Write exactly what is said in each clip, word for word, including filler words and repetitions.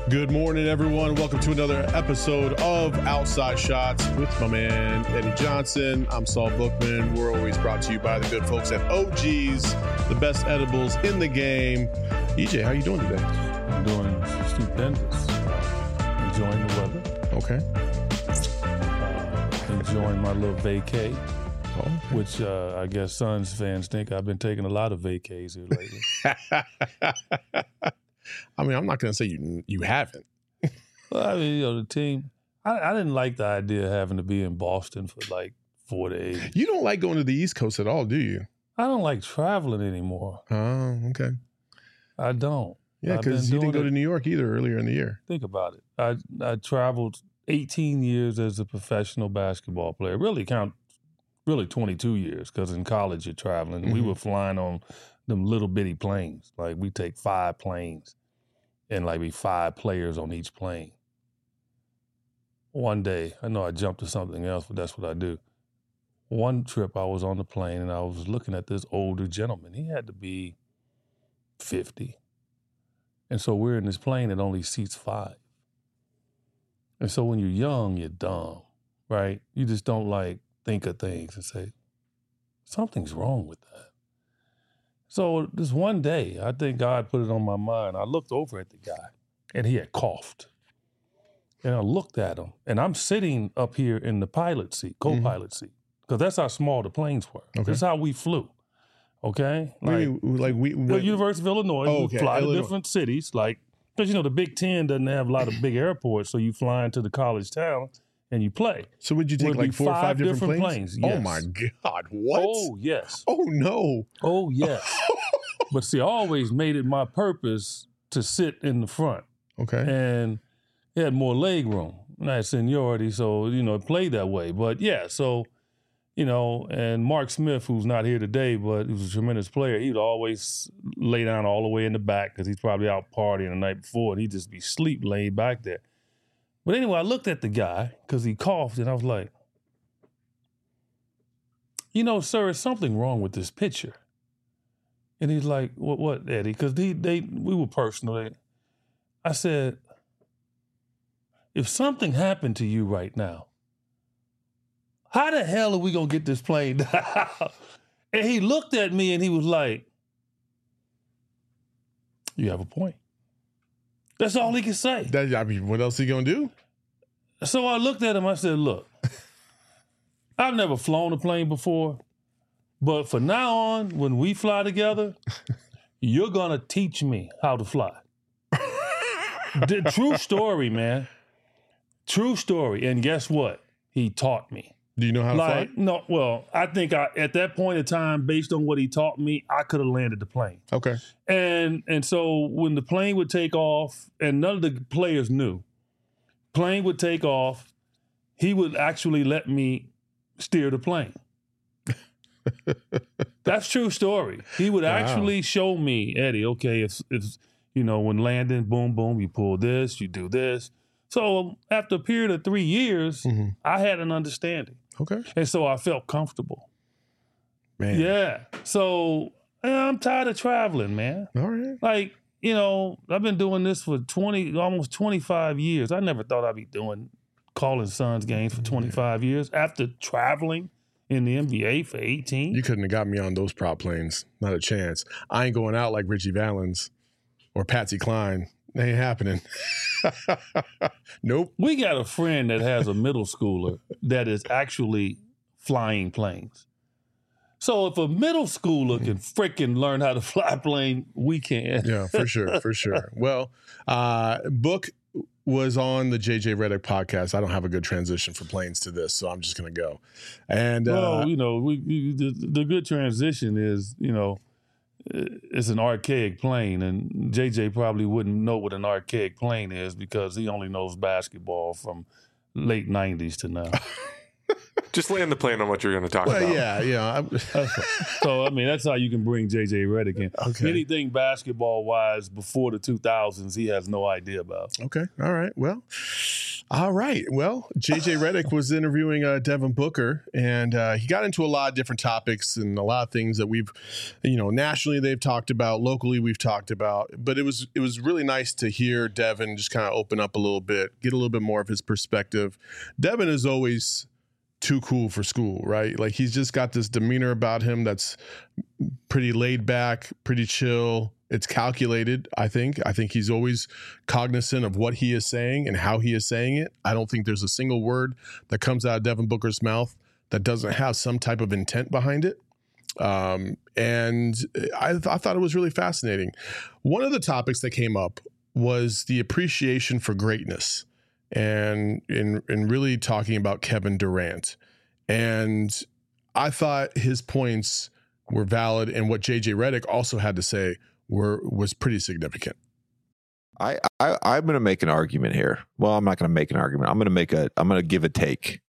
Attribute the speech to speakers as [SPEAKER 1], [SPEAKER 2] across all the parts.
[SPEAKER 1] Good morning, everyone. Welcome to another episode of Outside Shots with my man, Eddie Johnson. I'm Saul Bookman. We're always brought to you by the good folks at O G's, the best edibles in the game. E J, how you doing today?
[SPEAKER 2] I'm doing stupendous. Uh, enjoying the weather.
[SPEAKER 1] Okay.
[SPEAKER 2] Uh, enjoying my little vacay,
[SPEAKER 1] Oh, okay.
[SPEAKER 2] which uh, I guess Suns fans think I've been taking a lot of vacays here lately.
[SPEAKER 1] I mean, I'm not going to say you you haven't.
[SPEAKER 2] Well, I mean, you know, the team, I, I didn't like the idea of having to be in Boston for like four days.
[SPEAKER 1] You don't like going to the East Coast at all, do you?
[SPEAKER 2] I don't like traveling anymore.
[SPEAKER 1] Oh, okay.
[SPEAKER 2] I don't.
[SPEAKER 1] Yeah,
[SPEAKER 2] I've been
[SPEAKER 1] because you didn't
[SPEAKER 2] doing
[SPEAKER 1] go
[SPEAKER 2] it-
[SPEAKER 1] to New York either earlier in the year.
[SPEAKER 2] Think about it. I I traveled eighteen years as a professional basketball player. Really count, really twenty-two years because in college you're traveling. We
[SPEAKER 1] Mhm.
[SPEAKER 2] were flying on them little bitty planes. Like we take five planes and like be five players on each plane. One day, I know I jumped to something else, but that's what I do. One trip I was on the plane and I was looking at this older gentleman. He had to be fifty. And so we're in this plane that only seats five. And so when you're young, you're dumb, right? You just don't like think of things and say, something's wrong with that. So this one day, I think God put it on my mind. I looked over at the guy and he had coughed. And I looked at him and I'm sitting up here in the pilot seat, co-pilot seat, because that's how small the planes were.
[SPEAKER 1] Okay.
[SPEAKER 2] That's how we flew. Okay?
[SPEAKER 1] Like,
[SPEAKER 2] Like,
[SPEAKER 1] like we,
[SPEAKER 2] well,
[SPEAKER 1] we
[SPEAKER 2] University of Illinois,
[SPEAKER 1] Oh,
[SPEAKER 2] we
[SPEAKER 1] okay,
[SPEAKER 2] fly
[SPEAKER 1] Illinois.
[SPEAKER 2] to different cities, like, because, you know, the Big Ten doesn't have a lot of big airports, so you fly into the college town and you play.
[SPEAKER 1] So would you take
[SPEAKER 2] Would
[SPEAKER 1] like
[SPEAKER 2] be
[SPEAKER 1] four or
[SPEAKER 2] five
[SPEAKER 1] five different,
[SPEAKER 2] different
[SPEAKER 1] planes?
[SPEAKER 2] planes,
[SPEAKER 1] Oh
[SPEAKER 2] yes.
[SPEAKER 1] my God! What?
[SPEAKER 2] Oh, yes.
[SPEAKER 1] Oh no!
[SPEAKER 2] Oh, yes. But see, I always made it my purpose to sit in the front,
[SPEAKER 1] Okay.
[SPEAKER 2] and it had more leg room. And I had seniority, so, you know, it played that way. But, yeah, so, you know, and Mark Smith, who's not here today, but he was a tremendous player, he would always lay down all the way in the back because he's probably out partying the night before, and he'd just be sleep laid back there. But anyway, I looked at the guy because he coughed, and I was like, you know, sir, there's something wrong with this picture. And he's like, what, what, Eddie? Because they, they, we were personal. I said, if something happened to you right now, how the hell are we going to get this plane down? And he looked at me and he was like, you have a point. That's all he could say.
[SPEAKER 1] That, I mean, what else he gonna do?
[SPEAKER 2] So I looked at him, I said, look, I've never flown a plane before, but from now on, when we fly together, you're going to teach me how to fly. The true story, man. True story. And guess what? He taught me.
[SPEAKER 1] Do you know how to
[SPEAKER 2] Like,
[SPEAKER 1] fly?
[SPEAKER 2] no, well, I think I, at that point in time, based on what he taught me, I could have landed the plane.
[SPEAKER 1] Okay.
[SPEAKER 2] And and so when the plane would take off, and none of the players knew, plane would take off, he would actually let me steer the plane. That's true story. He would
[SPEAKER 1] Wow.
[SPEAKER 2] actually show me, Eddie, okay, if, if, you know, when landing, boom, boom, you pull this, you do this. So after a period of three years,
[SPEAKER 1] Mhm.
[SPEAKER 2] I had an understanding.
[SPEAKER 1] Okay.
[SPEAKER 2] And so I felt comfortable.
[SPEAKER 1] Man.
[SPEAKER 2] Yeah. So yeah, I'm tired of traveling, man.
[SPEAKER 1] All right.
[SPEAKER 2] Like, you know, I've been doing this for twenty, almost twenty-five years. I never thought I'd be doing calling Suns games for twenty-five years after traveling in the N B A for eighteen.
[SPEAKER 1] You couldn't have got me on those prop planes. Not a chance. I ain't going out like Richie Valens or Patsy Cline. It ain't happening. Nope.
[SPEAKER 2] We got a friend that has a middle schooler that is actually flying planes. So if a middle schooler can freaking learn how to fly a plane, we can.
[SPEAKER 1] Yeah, for sure, for sure. Well, uh, Book was on the J J Redick podcast. I don't have a good transition for planes to this, so I'm just going to go. And uh,
[SPEAKER 2] Well, you know, we, we the, the good transition is, you know, it's an archaic plane, and J J probably wouldn't know what an archaic plane is because he only knows basketball from late nineties to now.
[SPEAKER 3] Just land the plane on what you're going to talk
[SPEAKER 1] well,
[SPEAKER 3] about.
[SPEAKER 1] yeah, yeah. I'm-
[SPEAKER 2] So, I mean, that's how you can bring J J Redick in.
[SPEAKER 1] Okay.
[SPEAKER 2] Anything basketball-wise before the two thousands, he has no idea about.
[SPEAKER 1] Okay. All right. Well, All right. Well, J J Redick was interviewing uh, Devin Booker, and uh, he got into a lot of different topics and a lot of things that we've, you know, nationally they've talked about, locally we've talked about. But it was it was really nice to hear Devin just kind of open up a little bit, get a little bit more of his perspective. Devin is always too cool for school, right? Like he's just got this demeanor about him that's pretty laid back, pretty chill. It's calculated, I think. I think he's always cognizant of what he is saying and how he is saying it. I don't think there's a single word that comes out of Devin Booker's mouth that doesn't have some type of intent behind it. Um, and I, th- I thought it was really fascinating. One of the topics that came up was the appreciation for greatness and in, in really talking about Kevin Durant. And I thought his points were valid, and what J J Redick also had to say were was pretty significant.
[SPEAKER 4] I, I I'm going to make an argument here. Well, I'm not going to make an argument. I'm going to make a. I'm going to give a take.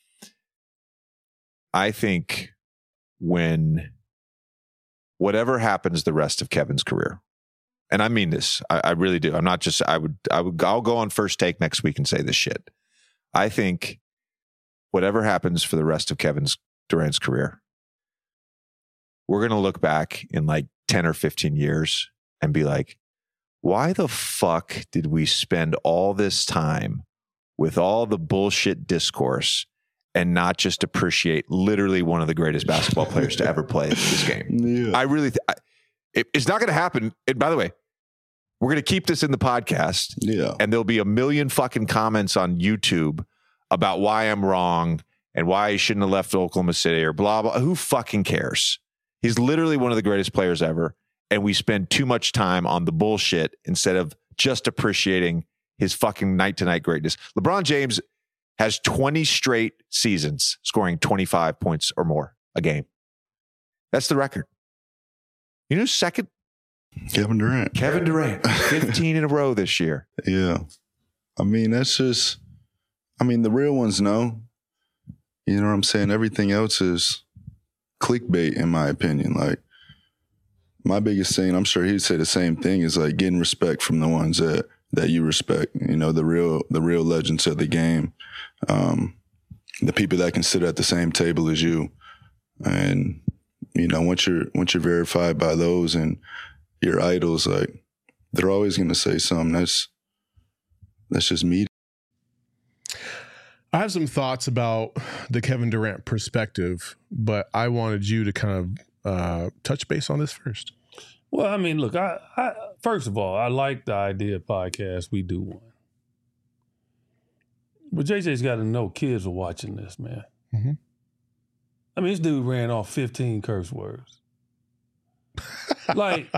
[SPEAKER 4] I think when whatever happens the rest of Kevin's career, and I mean this, I, I really do. I'm not just. I would. I would. I'll go on First Take next week and say this shit. I think whatever happens for the rest of Kevin's Durant's career, we're going to look back in like ten or fifteen years and be like, why the fuck did we spend all this time with all the bullshit discourse and not just appreciate literally one of the greatest basketball players to ever play this game? Yeah. I really, th- I, it, it's not going to happen. And by the way, we're going to keep this in the podcast.
[SPEAKER 5] Yeah.
[SPEAKER 4] And there'll be a million fucking comments on YouTube about why I'm wrong and why he shouldn't have left Oklahoma City or blah, blah. Who fucking cares? He's literally one of the greatest players ever, and we spend too much time on the bullshit instead of just appreciating his fucking night-to-night greatness. LeBron James has twenty straight seasons scoring twenty-five points or more a game. That's the record. You know, second?
[SPEAKER 5] Kevin Durant.
[SPEAKER 4] Kevin Durant, fifteen in a row this year.
[SPEAKER 5] Yeah. I mean, that's just, I mean, the real ones know. You know what I'm saying? Everything else is clickbait, in my opinion. Like, my biggest thing, I'm sure he'd say the same thing, is like getting respect from the ones that that you respect. You know, the real the real legends of the game, um, the people that can sit at the same table as you. And you know, once you're once you're verified by those and your idols, like they're always going to say something. That's that's just me.
[SPEAKER 1] I have some thoughts about the Kevin Durant perspective, but I wanted you to kind of uh, touch base on this first.
[SPEAKER 2] Well, I mean, look, I, I first of all, I like the idea of podcast. We do one. But J J's got to know kids are watching this, man. Mm-hmm. I mean, this dude ran off fifteen curse words. Like,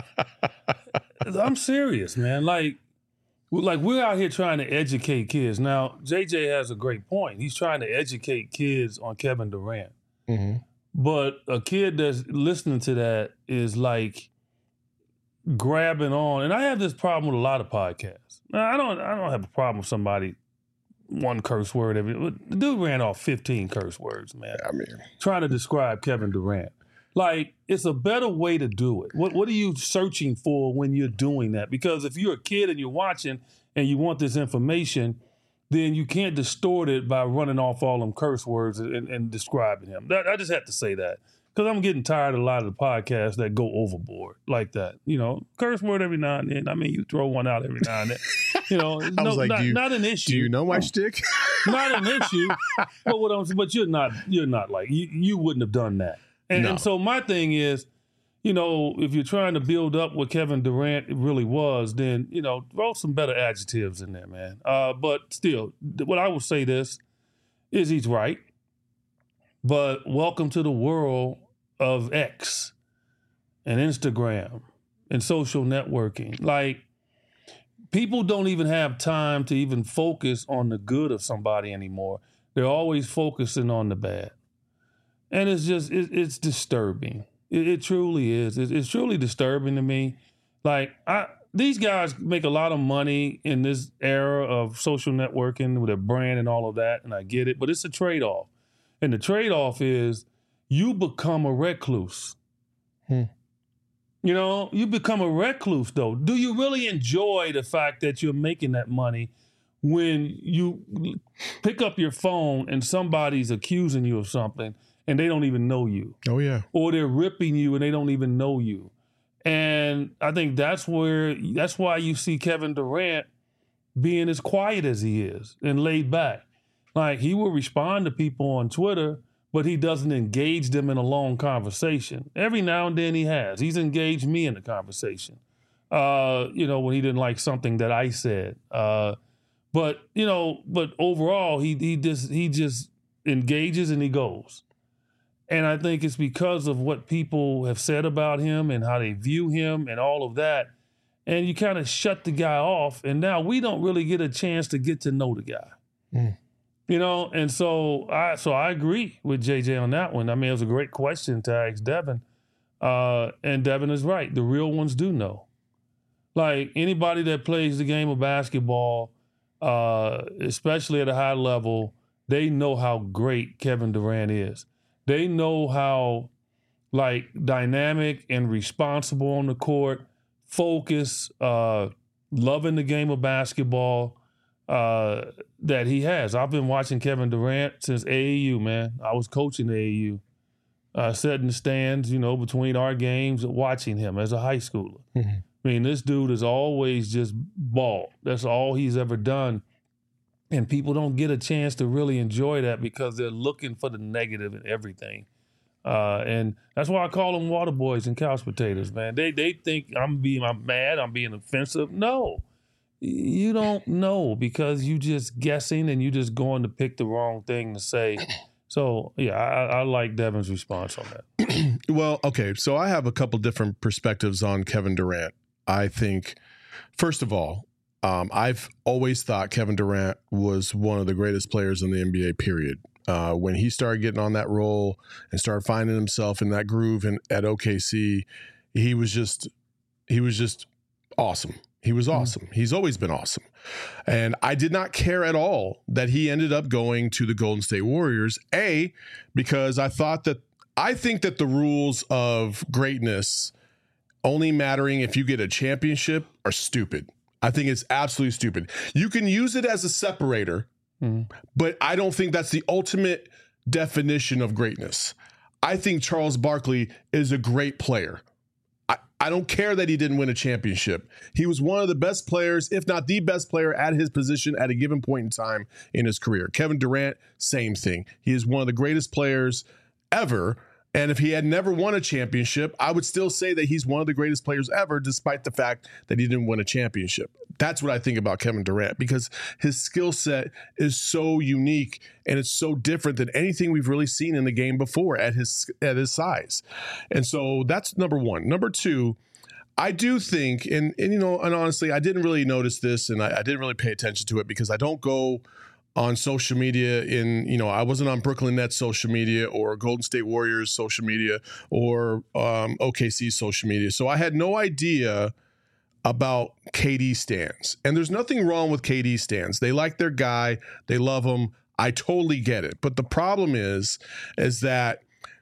[SPEAKER 2] I'm serious, man. Like, Like, we're out here trying to educate kids. Now, J J has a great point. He's trying to educate kids on Kevin Durant. Mm-hmm. But a kid that's listening to that is like grabbing on. And I have this problem with a lot of podcasts. Now, I don't I don't have a problem with somebody one curse word every. The dude ran off fifteen curse words, man.
[SPEAKER 1] I mean,
[SPEAKER 2] trying to describe Kevin Durant. Like, it's a better way to do it. What What are you searching for when you're doing that? Because if you're a kid and you're watching and you want this information, then you can't distort it by running off all them curse words and, and describing him. That, I just have to say that. Because I'm getting tired of a lot of the podcasts that go overboard like that. You know, curse word every now and then. I mean, you throw one out every now and then. You know,
[SPEAKER 1] I
[SPEAKER 2] no,
[SPEAKER 1] was like,
[SPEAKER 2] not,
[SPEAKER 1] do you,
[SPEAKER 2] not an issue.
[SPEAKER 1] Do you know my shtick?
[SPEAKER 2] Not an issue. But what I'm, but you're not. You're not like you. You wouldn't have done that. And, no. and so my thing is, you know, if you're trying to build up what Kevin Durant really was, then, you know, throw some better adjectives in there, man. Uh, but still, what I would say this is he's right. But welcome to the world of X and Instagram and social networking. Like, people don't even have time to even focus on the good of somebody anymore. They're always focusing on the bad. And it's just, it, it's disturbing. It, it truly is. It, it's truly disturbing to me. Like, I, these guys make a lot of money in this era of social networking with their brand and all of that, and I get it, but it's a trade-off. And the trade-off is you become a recluse. Hmm. You know, you become a recluse, though. Do you really enjoy the fact that you're making that money when you pick up your phone and somebody's accusing you of something and they don't even know you.
[SPEAKER 1] Oh, yeah.
[SPEAKER 2] Or they're ripping you and they don't even know you. And I think that's where, that's why you see Kevin Durant being as quiet as he is and laid back. Like, he will respond to people on Twitter, but he doesn't engage them in a long conversation. Every now and then he has. He's engaged me in the conversation, uh, you know, when he didn't like something that I said. Uh, but, you know, but overall, he he just he just engages and he goes. And I think it's because of what people have said about him and how they view him and all of that. And you kind of shut the guy off. And now we don't really get a chance to get to know the guy.
[SPEAKER 1] Mm.
[SPEAKER 2] You know, and so I so I agree with J J on that one. I mean, it was a great question to ask Devin. Uh, and Devin is right. The real ones do know. Like, anybody that plays the game of basketball, uh, especially at a high level, they know how great Kevin Durant is. They know how, like, dynamic and responsible on the court, focused, uh, loving the game of basketball uh, that he has. I've been watching Kevin Durant since A A U, man. I was coaching A A U. Uh, sat in the stands, you know, between our games, watching him as a high schooler. Mm-hmm. I mean, this dude is always just ball. That's all he's ever done. And people don't get a chance to really enjoy that because they're looking for the negative in everything. Uh, and that's why I call them water boys and couch potatoes, man. They they think I'm being I'm mad, I'm being offensive. No, you don't know because you just guessing and you just going to pick the wrong thing to say. So, yeah, I, I like Devin's response on that.
[SPEAKER 1] Well, okay, so I have a couple different perspectives on Kevin Durant. I think, first of all, um, I've always thought Kevin Durant was one of the greatest players in the N B A, period. Uh, when he started getting on that role and started finding himself in that groove in, at O K C, he was just he was just awesome. He was awesome. Mm-hmm. He's always been awesome. And I did not care at all that he ended up going to the Golden State Warriors, A, because I thought that I think that the rules of greatness only mattering if you get a championship are stupid. I think it's absolutely stupid. You can use it as a separator, mm-hmm. but I don't think that's the ultimate definition of greatness. I think Charles Barkley is a great player. I, I don't care that he didn't win a championship. He was one of the best players, if not the best player at his position at a given point in time in his career. Kevin Durant, same thing. He is one of the greatest players ever. And if he had never won a championship, I would still say that he's one of the greatest players ever, despite the fact that he didn't win a championship. That's what I think about Kevin Durant, because his skill set is so unique and it's so different than anything we've really seen in the game before at his at his size. And so that's number one. Number two, I do think, and, and you know, and honestly, I didn't really notice this and I, I didn't really pay attention to it because I don't go on social media in, you know, I wasn't on Brooklyn Nets social media or Golden State Warriors social media or um, O K C social media. So I had no idea about K D stans. And there's nothing wrong with K D stans. They like their guy. They love him. I totally get it. But the problem is, is that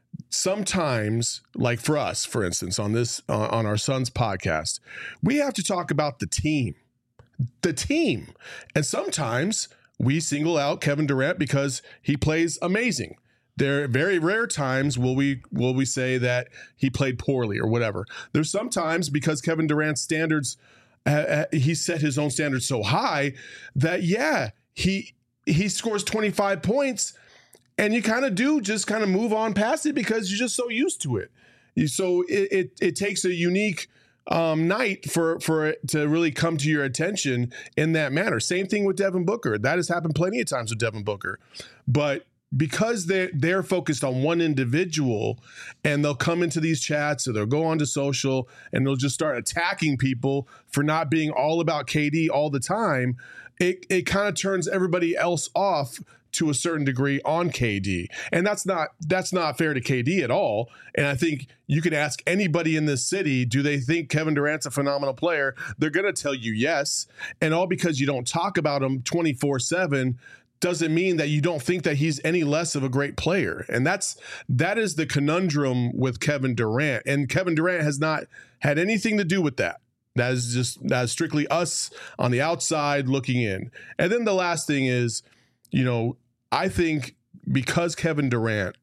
[SPEAKER 1] sometimes, like for us, for instance, on this, uh, on our son's podcast, we have to talk about the team, the team. And sometimes we single out Kevin Durant because he plays amazing. There are very rare times will we will we say that he played poorly or whatever. There's sometimes because Kevin Durant's standards, uh, he set his own standards so high that, yeah, he he scores twenty-five points and you kind of do just kind of move on past it because you're just so used to it. So it it, it takes a unique Um, night for for it to really come to your attention in that manner. Same thing with Devin Booker. That has happened plenty of times with Devin Booker. But because they're, they're focused on one individual and they'll come into these chats or they'll go onto social and they'll just start attacking people for not being all about K D all the time, it, it kind of turns everybody else off to a certain degree on K D. And that's not that's not fair to K D at all. And I think you can ask anybody in this city, do they think Kevin Durant's a phenomenal player? They're going to tell you yes. And all because you don't talk about him twenty-four seven doesn't mean that you don't think that he's any less of a great player. And that's that is the conundrum with Kevin Durant. And Kevin Durant has not had anything to do with that. That is just that is strictly us on the outside looking in. And then the last thing is, you know, I think because Kevin Durant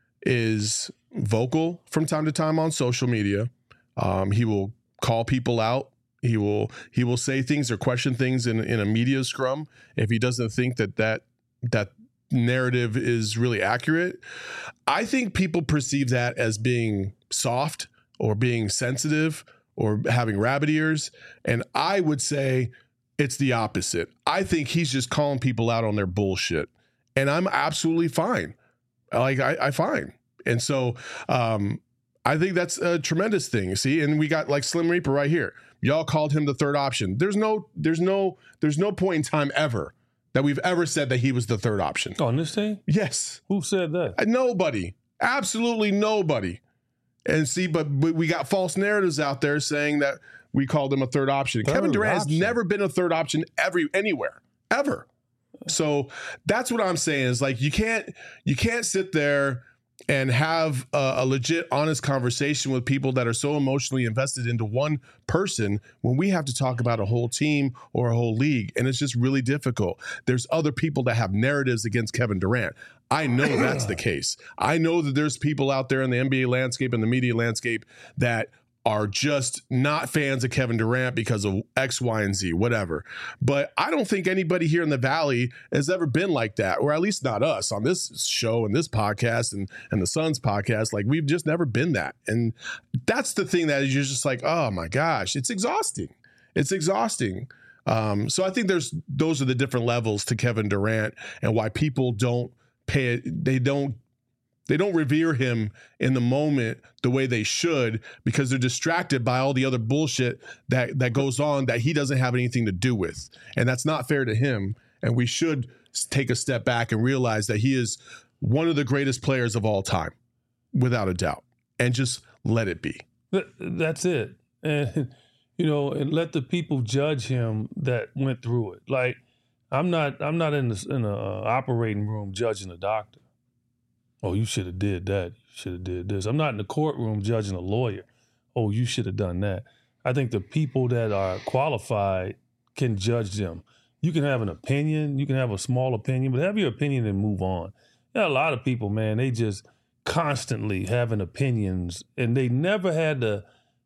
[SPEAKER 1] is vocal from time to time on social media, um, he will call people out. He will he will say things or question things in in a media scrum if he doesn't think that that that narrative is really accurate. I think people perceive that as being soft or being sensitive or having rabbit ears. And I would say it's the opposite. I think he's just calling people out on their bullshit. And I'm absolutely fine. Like, I, I fine. And so um, I think that's a tremendous thing. See, and we got like Slim Reaper right here. Y'all called him the third option. There's no, there's no, there's no point in time ever that we've ever said that he was the third option.
[SPEAKER 2] On this team?
[SPEAKER 1] Yes.
[SPEAKER 2] Who said that?
[SPEAKER 1] Nobody. Absolutely nobody. And see, but we got false narratives out there saying that we called him a third option.
[SPEAKER 2] Third
[SPEAKER 1] Kevin Durant
[SPEAKER 2] option.
[SPEAKER 1] has never been a third option every anywhere, ever. So that's what I'm saying is like you can't you can't sit there and have a, a legit, honest conversation with people that are so emotionally invested into one person when we have to talk about a whole team or a whole league. And it's just really difficult. There's other people that have narratives against Kevin Durant. I know that's the case. I know that there's people out there in the N B A landscape and the media landscape that are just not fans of Kevin Durant because of X, Y, and Z, whatever. But I don't think anybody here in the Valley has ever been like that, or at least not us on this show and this podcast and, and the Suns podcast. Like, we've just never been that. And that's the thing that is you're just like, oh my gosh, it's exhausting. It's exhausting. Um, so I think there's those are the different levels to Kevin Durant and why people don't pay it. They don't They don't revere him in the moment the way they should because they're distracted by all the other bullshit that, that goes on that he doesn't have anything to do with. And that's not fair to him. And we should take a step back and realize that he is one of the greatest players of all time, without a doubt, and just let it be.
[SPEAKER 2] That's it. And, you know, and let the people judge him that went through it. Like, I'm not I'm not in the in a operating room judging a doctor. Oh, you should have did that. You should have did this. I'm not in the courtroom judging a lawyer. Oh, you should have done that. I think the people that are qualified can judge them. You can have an opinion. You can have a small opinion, but have your opinion and move on. There are a lot of people, man, they just constantly having opinions, and they never had the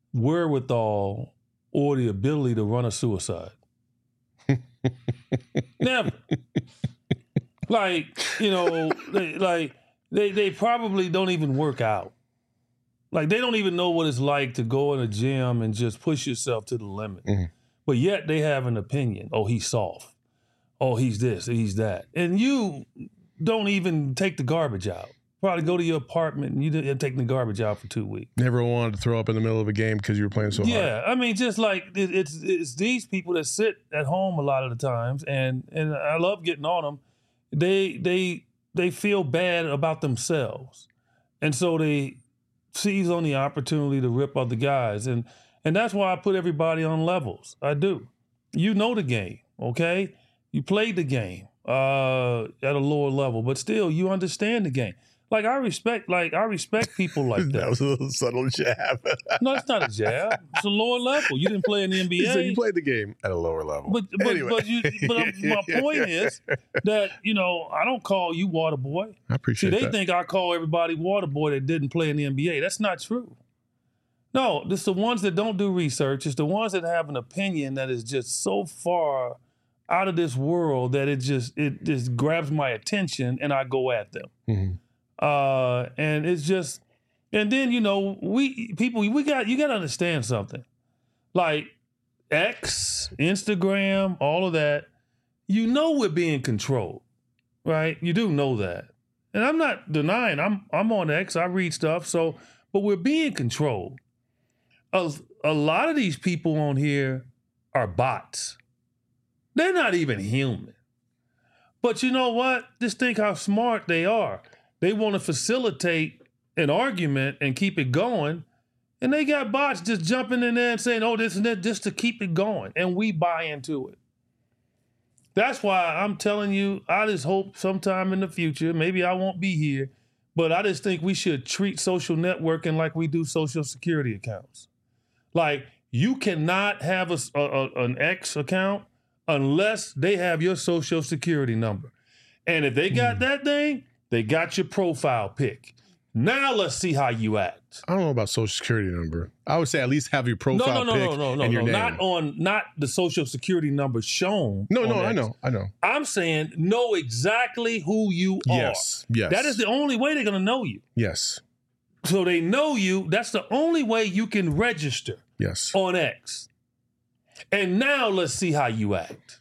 [SPEAKER 2] wherewithal or the ability to run a suicide. Never. Like, you know, they, like, They they probably don't even work out. Like, they don't even know what it's like to go in a gym and just push yourself to the limit. Mm-hmm. But yet they have an opinion. Oh, he's soft. Oh, he's this, he's that. And you don't even take the garbage out. Probably go to your apartment and you didn't take the garbage out for two weeks.
[SPEAKER 1] Never wanted to throw up in the middle of a game because you were playing so
[SPEAKER 2] yeah, hard.
[SPEAKER 1] Yeah,
[SPEAKER 2] I mean, just like it, it's it's these people that sit at home a lot of the times, and and I love getting on them. They they they feel bad about themselves, and so they seize on the opportunity to rip other guys, and and that's why I put everybody on levels. I do. You know the game, okay? You played the game uh, at a lower level, but still you understand the game. Like, I respect, like, I respect people like that.
[SPEAKER 1] That was a little subtle jab.
[SPEAKER 2] No, it's not a jab. It's a lower level. You didn't play in the N B A.
[SPEAKER 1] He said you played the game at a lower level.
[SPEAKER 2] But but,
[SPEAKER 1] anyway.
[SPEAKER 2] but, you, but my point is that, you know, I don't call you water boy.
[SPEAKER 1] I appreciate
[SPEAKER 2] that. See, they
[SPEAKER 1] that.
[SPEAKER 2] think I call everybody water boy that didn't play in the N B A. That's not true. No, it's the ones that don't do research. It's the ones that have an opinion that is just so far out of this world that it just it just grabs my attention and I go at them. Mm-hmm. Uh, and it's just, and then, you know, we people, we got, you got to understand something. Like X, Instagram, all of that, you know, we're being controlled, right? You do know that. And I'm not denying, I'm, I'm on X, I read stuff. So, but we're being controlled. A, a lot of these people on here are bots. They're not even human. But you know what? Just think how smart they are. They want to facilitate an argument and keep it going. And they got bots just jumping in there and saying, oh, this and that, just to keep it going. And we buy into it. That's why I'm telling you, I just hope sometime in the future, maybe I won't be here, but I just think we should treat social networking like we do social security accounts. Like, you cannot have a, a, a- an X account unless they have your social security number. And if they got that thing, they got your profile pic. Now let's see how you act.
[SPEAKER 1] I don't know about social security number. I would say at least have your profile
[SPEAKER 2] No, no, no,
[SPEAKER 1] pic
[SPEAKER 2] no, no, no,
[SPEAKER 1] and your
[SPEAKER 2] no.
[SPEAKER 1] name.
[SPEAKER 2] Not on, not the social security number shown.
[SPEAKER 1] no,
[SPEAKER 2] on
[SPEAKER 1] no,
[SPEAKER 2] that.
[SPEAKER 1] I know, I know.
[SPEAKER 2] I'm saying know exactly who you are.
[SPEAKER 1] Yes, yes.
[SPEAKER 2] That is the only way they're gonna know you.
[SPEAKER 1] Yes,
[SPEAKER 2] So they know you. That's the only way you can register
[SPEAKER 1] yes.
[SPEAKER 2] on X. And now let's see how you act.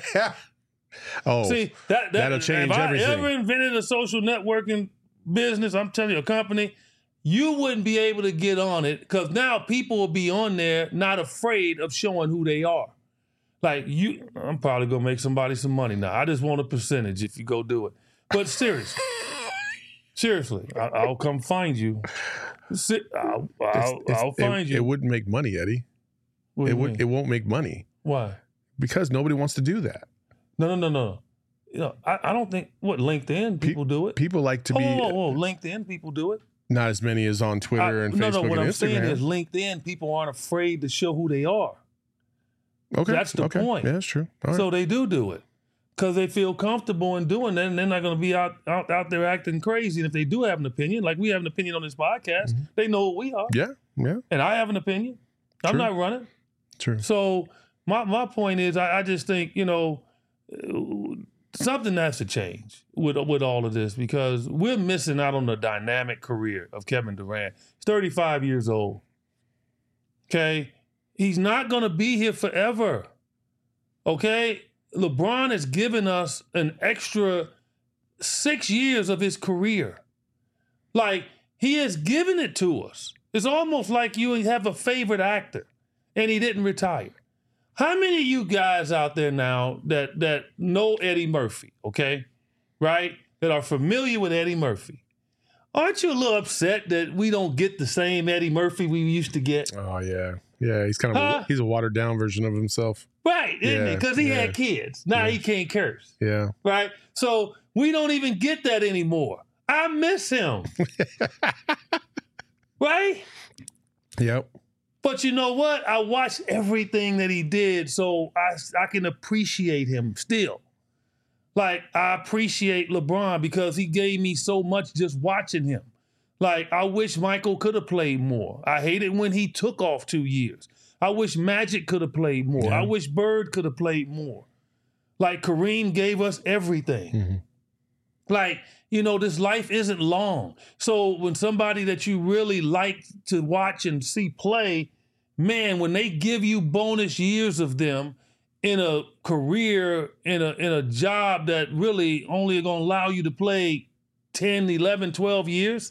[SPEAKER 1] oh,
[SPEAKER 2] See that, that
[SPEAKER 1] that'll change
[SPEAKER 2] if I
[SPEAKER 1] everything.
[SPEAKER 2] ever invented a social networking business, I'm telling you, a company, you wouldn't be able to get on it because now people will be on there not afraid of showing who they are. Like you, I'm probably gonna make somebody some money now. I just want a percentage if you go do it. But seriously, seriously, I, I'll come find you. Si- I'll, I'll,
[SPEAKER 1] It's- it's-
[SPEAKER 2] I'll find
[SPEAKER 1] it,
[SPEAKER 2] you.
[SPEAKER 1] It wouldn't make money, Eddie.
[SPEAKER 2] What do
[SPEAKER 1] It
[SPEAKER 2] you
[SPEAKER 1] would.
[SPEAKER 2] mean?
[SPEAKER 1] It won't make money
[SPEAKER 2] Why?
[SPEAKER 1] because nobody wants to do that.
[SPEAKER 2] No, no, no, no. You know, I, I don't think what LinkedIn people do it.
[SPEAKER 1] People like to
[SPEAKER 2] Whoa,
[SPEAKER 1] be
[SPEAKER 2] whoa, whoa, LinkedIn people do it.
[SPEAKER 1] not as many as on Twitter
[SPEAKER 2] I-
[SPEAKER 1] and
[SPEAKER 2] no,
[SPEAKER 1] Facebook
[SPEAKER 2] no. What
[SPEAKER 1] and
[SPEAKER 2] I'm
[SPEAKER 1] Instagram.
[SPEAKER 2] saying is LinkedIn people aren't afraid to show who they are.
[SPEAKER 1] okay,
[SPEAKER 2] that's the
[SPEAKER 1] okay.
[SPEAKER 2] point.
[SPEAKER 1] Yeah, that's true. All right.
[SPEAKER 2] So they do do it because they feel comfortable in doing that, and they're not going to be out, out out there acting crazy. And if they do have an opinion, like we have an opinion on this podcast, they know what we are,
[SPEAKER 1] yeah, yeah,
[SPEAKER 2] and I have an opinion. I'm
[SPEAKER 1] True.
[SPEAKER 2] not running.
[SPEAKER 1] true.
[SPEAKER 2] So my my point is, I, I just think you know uh, something has to change with with all of this because we're missing out on the dynamic career of Kevin Durant. He's thirty-five years old. Okay, he's not going to be here forever. Okay, LeBron has given us an extra six years of his career. Like he has given it to us. It's almost like you have a favorite actor and he didn't retire. How many of you guys out there now that that know Eddie Murphy, okay? Right? That are familiar with Eddie Murphy. Aren't you a little upset that we don't get the same Eddie Murphy we used to get?
[SPEAKER 1] Oh yeah, yeah. He's kind of
[SPEAKER 2] Huh?
[SPEAKER 1] a, he's a watered down version of himself.
[SPEAKER 2] Right, isn't
[SPEAKER 1] Yeah,
[SPEAKER 2] it? Because he
[SPEAKER 1] yeah.
[SPEAKER 2] had kids. Now
[SPEAKER 1] Yeah.
[SPEAKER 2] he can't curse.
[SPEAKER 1] Yeah,
[SPEAKER 2] Right? So we don't even get that anymore. I miss him. Right?
[SPEAKER 1] yep.
[SPEAKER 2] But you know what? I watched everything that he did, so I, I can appreciate him still. Like, I appreciate LeBron because he gave me so much just watching him. Like, I wish Michael could have played more. I hated when he took off two years. I wish Magic could have played more.
[SPEAKER 1] Yeah.
[SPEAKER 2] I wish Bird could have played more. Like, Kareem gave us everything.
[SPEAKER 1] Mhm.
[SPEAKER 2] Like, you know, this life isn't long. So when somebody that you really like to watch and see play, man, when they give you bonus years of them in a career, in a in a job that really only gonna allow you to play ten, eleven, twelve years,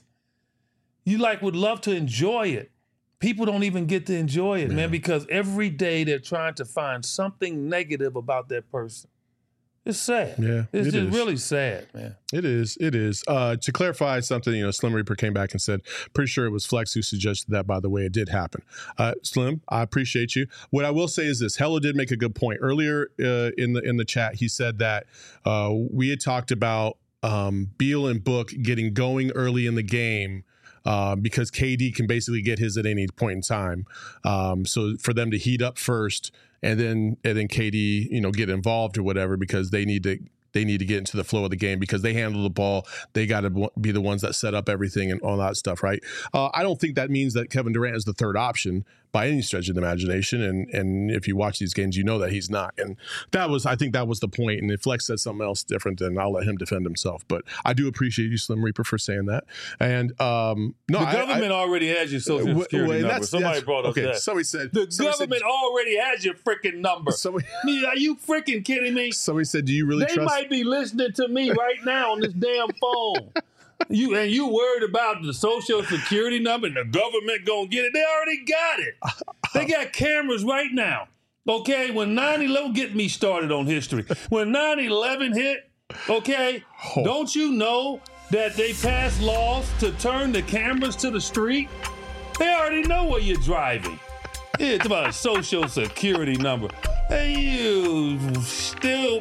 [SPEAKER 2] you like would love to enjoy it. People don't even get to enjoy it, man, because every day they're trying to find something negative about that person. It's sad.
[SPEAKER 1] Yeah,
[SPEAKER 2] It's
[SPEAKER 1] it
[SPEAKER 2] just
[SPEAKER 1] is.
[SPEAKER 2] really sad, man.
[SPEAKER 1] It is. It is. Uh, to clarify something, you know, Slim Reaper came back and said, pretty sure it was Flex who suggested that, by the way, it did happen. Uh, Slim, I appreciate you. What I will say is this. Hello did make a good point. Earlier uh, in the in the chat, he said that uh, we had talked about um, Beal and Book getting going early in the game uh, because K D can basically get his at any point in time. Um, so for them to heat up first and then and then K D, you know, get involved or whatever because they need to they need to get into the flow of the game because they handle the ball. They got to be the ones that set up everything and all that stuff, right? Uh, I don't think that means that Kevin Durant is the third option by any stretch of the imagination. And and if you watch these games, you know that he's not. And that was, I think that was the point. And if Flex said something else different, then I'll let him defend himself. But I do appreciate you, Slim Reaper, for saying that. And um, no,
[SPEAKER 2] The
[SPEAKER 1] I-
[SPEAKER 2] government
[SPEAKER 1] I,
[SPEAKER 2] already has your social
[SPEAKER 1] w-
[SPEAKER 2] security
[SPEAKER 1] well,
[SPEAKER 2] number.
[SPEAKER 1] that's-
[SPEAKER 2] Somebody
[SPEAKER 1] that's-
[SPEAKER 2] brought up
[SPEAKER 1] okay,
[SPEAKER 2] that.
[SPEAKER 1] somebody said
[SPEAKER 2] The
[SPEAKER 1] somebody
[SPEAKER 2] government already has your freaking number.
[SPEAKER 1] Said, somebody,
[SPEAKER 2] I mean, are you freaking kidding me?
[SPEAKER 1] somebody said, do you really
[SPEAKER 2] They
[SPEAKER 1] trust?
[SPEAKER 2] might be listening to me right now on this damn phone. You and you worried about the social security number and the government gonna get it. They already got it. They got cameras right now. Okay, when nine eleven, get me started on history. When nine eleven hit, okay,
[SPEAKER 1] Oh.
[SPEAKER 2] don't you know that they passed laws to turn the cameras to the street? They already know where you're driving. It's about a social security number. Hey, you still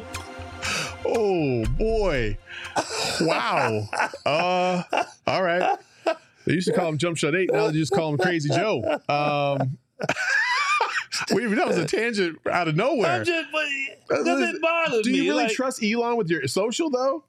[SPEAKER 1] Oh boy! Wow. Uh, all right. They used to call him Jump Shot Eight. Now they just call him Crazy Joe. Um, Wait, that was a tangent out of nowhere.
[SPEAKER 2] I'm just, but doesn't bother
[SPEAKER 1] Do
[SPEAKER 2] me.
[SPEAKER 1] you really
[SPEAKER 2] Like,
[SPEAKER 1] trust Elon with your social though?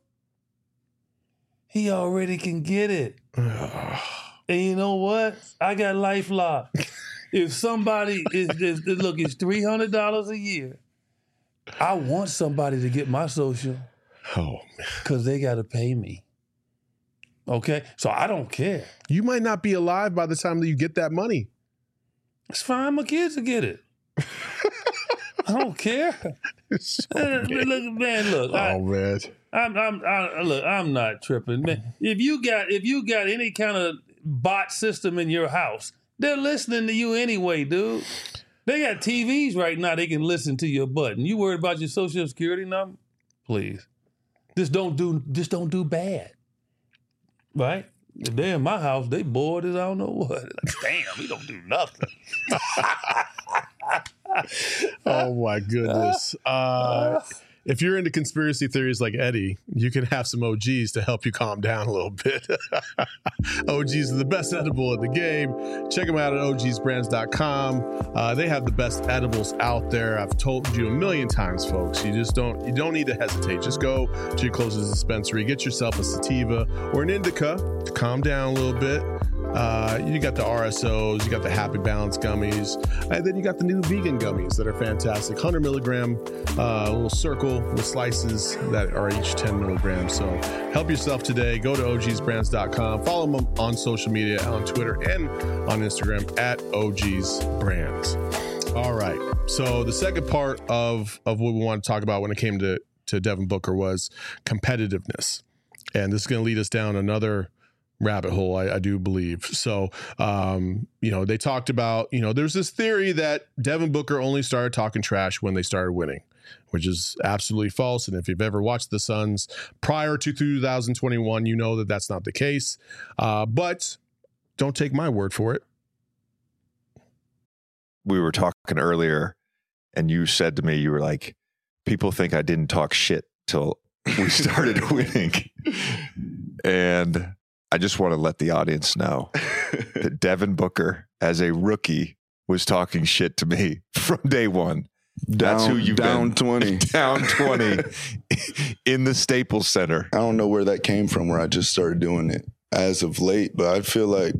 [SPEAKER 2] he already can get it. And you know what? I got LifeLock. If somebody is, is look, it's three hundred dollars a year. I want somebody to get my social
[SPEAKER 1] Oh man.
[SPEAKER 2] because they got to pay me. Okay? So I don't care.
[SPEAKER 1] You might not be alive by the time that you get that money.
[SPEAKER 2] It's fine. My kids will get it. I don't care.
[SPEAKER 1] So
[SPEAKER 2] Man,
[SPEAKER 1] big.
[SPEAKER 2] look, man, look. I,
[SPEAKER 1] Oh man.
[SPEAKER 2] I'm, I'm, I, look. I'm not tripping, man. If you got, if you got any kind of bot system in your house, they're listening to you anyway, dude. They got T Vs right now. They can listen to your button. You worried about your social security number? Please, just don't do, just don't do bad, right? If they're in my house, they bored as I don't know what. Like, damn, we don't do nothing.
[SPEAKER 1] Oh my goodness. Uh, if you're into conspiracy theories like Eddie, you can have some O Gs to help you calm down a little bit. O Gs are the best edible in the game. Check them out at O Gs brands dot com. Uh, they have the best edibles out there. I've told you a million times, folks. You just don't you don't need to hesitate. Just go to your closest dispensary, get yourself a sativa or an indica to calm down a little bit. Uh, you got the R S Os, you got the Happy Balance gummies, and then you got the new vegan gummies that are fantastic. one hundred milligram, uh, little circle with slices that are each ten milligrams. So help yourself today. Go to O Gs brands dot com. Follow them on social media, on Twitter and on Instagram at O Gs Brands. All right. So the second part of, of what we want to talk about when it came to, to Devin Booker was competitiveness. And this is going to lead us down another rabbit hole, I, I do believe. So, um, you know, they talked about, you know, there's this theory that Devin Booker only started talking trash when they started winning, which is absolutely false. And if you've ever watched the Suns prior to two thousand twenty-one, you know that that's not the case. Uh, but don't take my word for it.
[SPEAKER 4] We were talking earlier, and you said to me, you were like, people think I didn't talk shit till we started winning. And I just want to let the audience know that Devin Booker, as a rookie, was talking shit to me from day one. That's
[SPEAKER 5] Down-
[SPEAKER 4] who you've
[SPEAKER 5] down
[SPEAKER 4] been.
[SPEAKER 5] twenty.
[SPEAKER 4] Down twenty in the Staples Center.
[SPEAKER 5] I don't know where that came from, where I just started doing it as of late, but I feel like,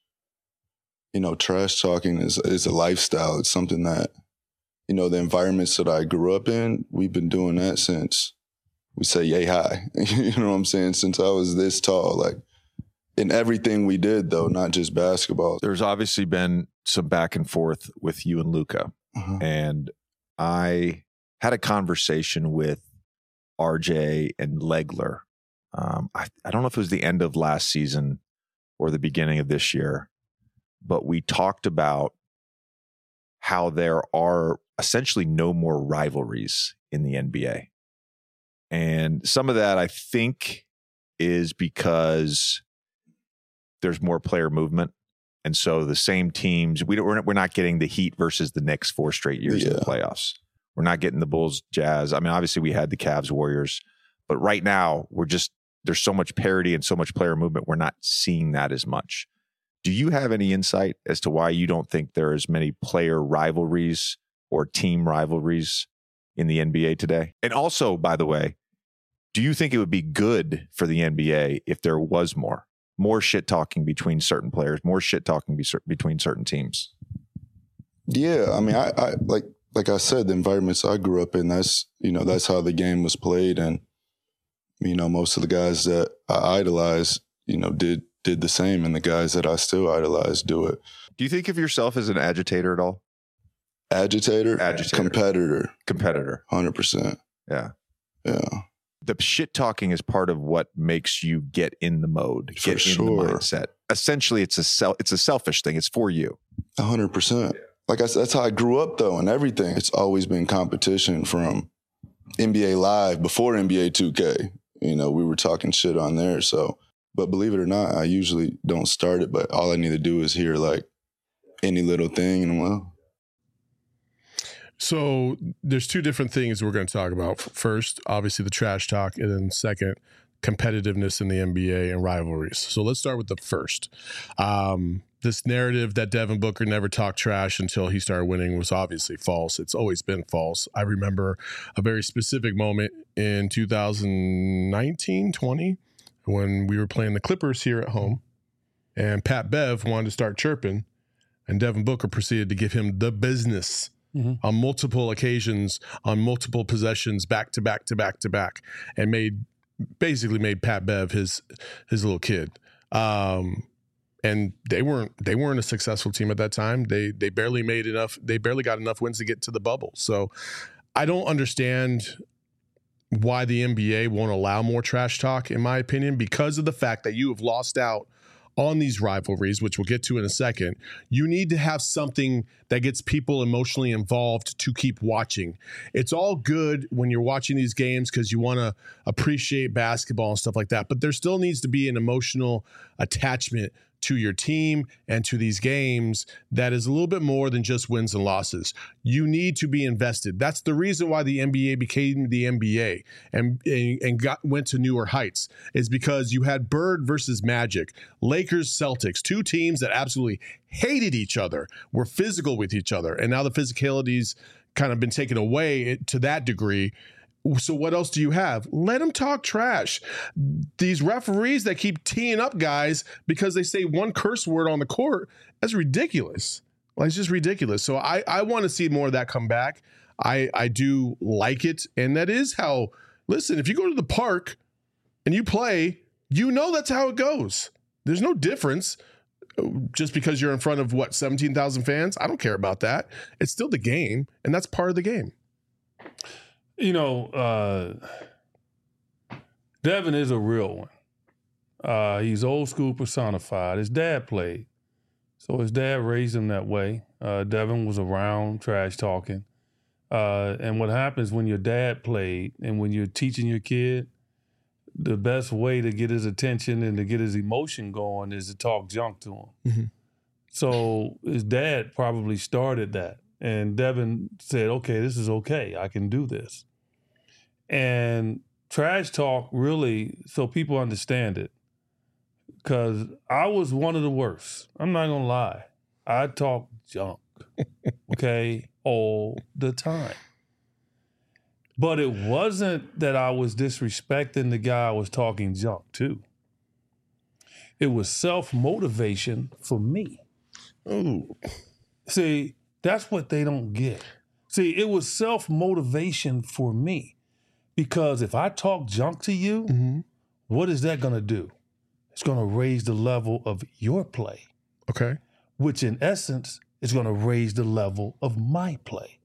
[SPEAKER 5] you know, trash talking is is a lifestyle. It's something that, you know, the environments that I grew up in, we've been doing that since we say yay high. You know what I'm saying? Since I was this tall, like in everything we did, though, not just basketball.
[SPEAKER 4] There's obviously been some back and forth with you and Luka.
[SPEAKER 5] Uh-huh.
[SPEAKER 4] And I had a conversation with R J and Legler. Um, I, I don't know if it was the end of last season or the beginning of this year, but we talked about how there are essentially no more rivalries in the N B A. And some of that, I think, is because there's more player movement. And so the same teams, we don't, we're, not, we're not getting the Heat versus the Knicks four straight years in the
[SPEAKER 5] Yeah.
[SPEAKER 4] playoffs. We're not getting the Bulls, Jazz. I mean, obviously we had the Cavs, Warriors, but right now we're just, there's so much parity and so much player movement. We're not seeing that as much. Do you have any insight as to why you don't think there are as many player rivalries or team rivalries in the N B A today? And also, by the way, do you think it would be good for the N B A if there was more? More shit talking between certain players, more shit talking be- between certain teams.
[SPEAKER 5] Yeah, I mean, I, I like like I said, the environments I grew up in, that's, you know, that's how the game was played, and you know, most of the guys that I idolize, you know, did did the same, and the guys that I still idolize do it.
[SPEAKER 4] Do you think of yourself as an agitator at all?
[SPEAKER 5] Agitator,
[SPEAKER 4] Agitator.
[SPEAKER 5] competitor,
[SPEAKER 4] Competitor.
[SPEAKER 5] one hundred percent.
[SPEAKER 4] Yeah.
[SPEAKER 5] Yeah,
[SPEAKER 4] The shit talking is part of what makes you get in the mode,
[SPEAKER 5] For
[SPEAKER 4] get in
[SPEAKER 5] sure.
[SPEAKER 4] the mindset. Essentially, it's a sel- it's a selfish thing. It's for you.
[SPEAKER 5] one hundred percent. Like I said, that's how I grew up, though, and everything. It's always been competition from N B A Live before N B A two K. You know, we were talking shit on there. So, but believe it or not, I usually don't start it, but all I need to do is hear like any little thing, and well,
[SPEAKER 1] So there's two different things we're going to talk about. First, obviously the trash talk, and then second, competitiveness in the N B A and rivalries. So let's start with the first. Um, this narrative that Devin Booker never talked trash until he started winning was obviously false. It's always been false. I remember a very specific moment in two thousand nineteen, twenty, when we were playing the Clippers here at home, and Pat Bev wanted to start chirping, and Devin Booker proceeded to give him the business mm-hmm. on multiple occasions, on multiple possessions, back to back to back to back, and made basically made Pat Bev his his little kid. Um, and they weren't they weren't a successful team at that time. They they barely made enough. They barely got enough wins to get to the bubble. So I don't understand why the N B A won't allow more trash talk, in my opinion, because of the fact that you have lost out on these rivalries, which we'll get to in a second. You need to have something that gets people emotionally involved to keep watching. It's all good when you're watching these games because you want to appreciate basketball and stuff like that, but there still needs to be an emotional attachment to your team and to these games that is a little bit more than just wins and losses. You need to be invested. That's the reason why the N B A became the N B A and and, and got went to newer heights, is because you had Bird versus Magic, Lakers, Celtics, two teams that absolutely hated each other, were physical with each other, and now the physicality's kind of been taken away to that degree. So what else do you have? Let them talk trash. These referees that keep teeing up guys because they say one curse word on the court, that's ridiculous. Like, it's just ridiculous. So I, I want to see more of that come back. I, I do like it. And that is how, listen, if you go to the park and you play, you know that's how it goes. There's no difference just because you're in front of, what, seventeen thousand fans? I don't care about that. It's still the game, and that's part of the game.
[SPEAKER 2] You know, uh, Devin is a real one. Uh, he's old school personified. His dad played. So his dad raised him that way. Uh, Devin was around trash talking. Uh, and what happens when your dad played and when you're teaching your kid, the best way to get his attention and to get his emotion going is to talk junk to him. Mm-hmm. So his dad probably started that. And Devin said, okay, this is okay. I can do this. And trash talk really, so people understand it, because I was one of the worst. I'm not going to lie. I talk junk, okay, all the time. But it wasn't that I was disrespecting the guy I was talking junk to. It was self-motivation for me.
[SPEAKER 1] Ooh.
[SPEAKER 2] See, that's what they don't get. See, it was self-motivation for me. Because if I talk junk to you, mm-hmm. what is that going to do? It's going to raise the level of your play.
[SPEAKER 1] Okay.
[SPEAKER 2] Which in essence is going to raise the level of my play.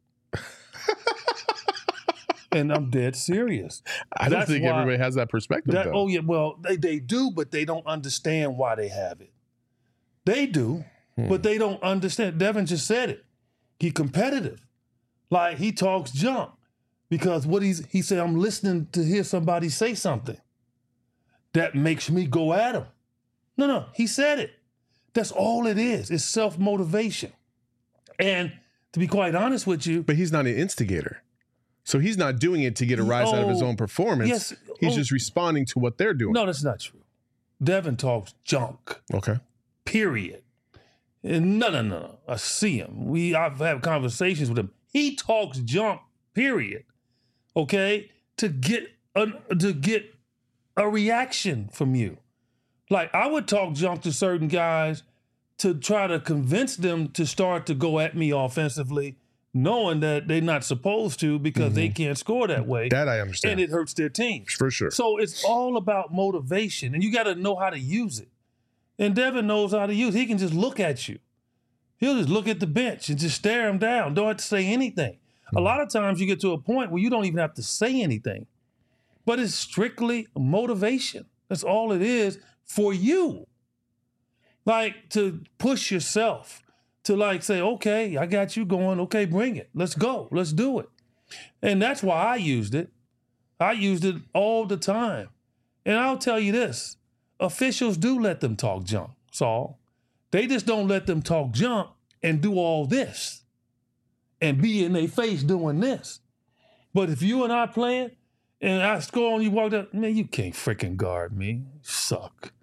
[SPEAKER 2] And I'm dead serious.
[SPEAKER 1] I don't That's think why, everybody has that perspective, that, though.
[SPEAKER 2] Oh, yeah, well, they, they do, but they don't understand why they have it. They do, hmm. but they don't understand. Devin just said it. He competitive. Like, he talks junk. Because what he's, he said, I'm listening to hear somebody say something that makes me go at him. No, no, he said it. That's all it is. It's self-motivation. And to be quite honest with you.
[SPEAKER 1] But he's not an instigator. So he's not doing it to get a rise oh, out of his own performance. Yes, he's oh, just responding to what they're doing.
[SPEAKER 2] No, that's not true. Devin talks junk.
[SPEAKER 1] Okay.
[SPEAKER 2] Period. And no, no, no, no. I see him. We, I've had conversations with him. He talks junk, period. Okay, to get a, to get a reaction from you. Like, I would talk junk to certain guys to try to convince them to start to go at me offensively, knowing that they're not supposed to because mm-hmm. they can't score that way.
[SPEAKER 1] That I understand.
[SPEAKER 2] And it hurts their team.
[SPEAKER 1] For sure.
[SPEAKER 2] So it's all about motivation, and you got to know how to use it. And Devin knows how to use it. He can just look at you. He'll just look at the bench and just stare him down. Don't have to say anything. A lot of times you get to a point where you don't even have to say anything, but it's strictly motivation. That's all it is for you. Like, to push yourself, to like say, okay, I got you going. Okay, bring it. Let's go. Let's do it. And that's why I used it. I used it all the time. And I'll tell you this, officials do let them talk junk, Saul. They just don't let them talk junk and do all this. And be in their face doing this. But if you and I playing and I score and you walked up, man, you can't freaking guard me. You suck.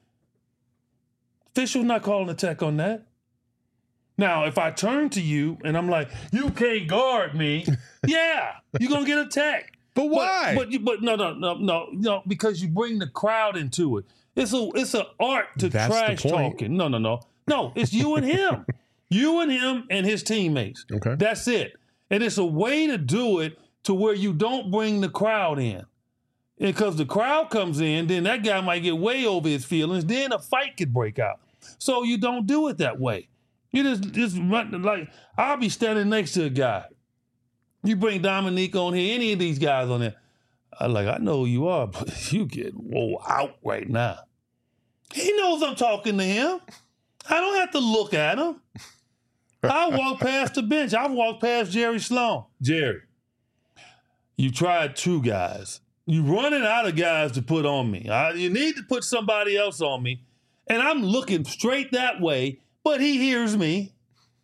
[SPEAKER 2] Official's not calling a tech on that. Now, if I turn to you and I'm like, you can't guard me, yeah, you're going to get a tech.
[SPEAKER 1] But why?
[SPEAKER 2] But, but, you, but no, no, no, no, no, because you bring the crowd into it. It's a it's an art to
[SPEAKER 1] That's the
[SPEAKER 2] trash
[SPEAKER 1] point.
[SPEAKER 2] talking. No, no, no. No, it's you and him. You and him and his teammates.
[SPEAKER 1] Okay.
[SPEAKER 2] That's it. And it's a way to do it to where you don't bring the crowd in. Because the crowd comes in, then that guy might get way over his feelings. Then a fight could break out. So you don't do it that way. You just, just run, like, I'll be standing next to a guy. You bring Dominique on here, any of these guys on there. I'm like, I know who you are, but you get whoa out right now. He knows I'm talking to him. I don't have to look at him. I walk past the bench. I've walked past Jerry Sloan. Jerry, you tried two guys. You're running out of guys to put on me. I, you need to put somebody else on me. And I'm looking straight that way, but he hears me.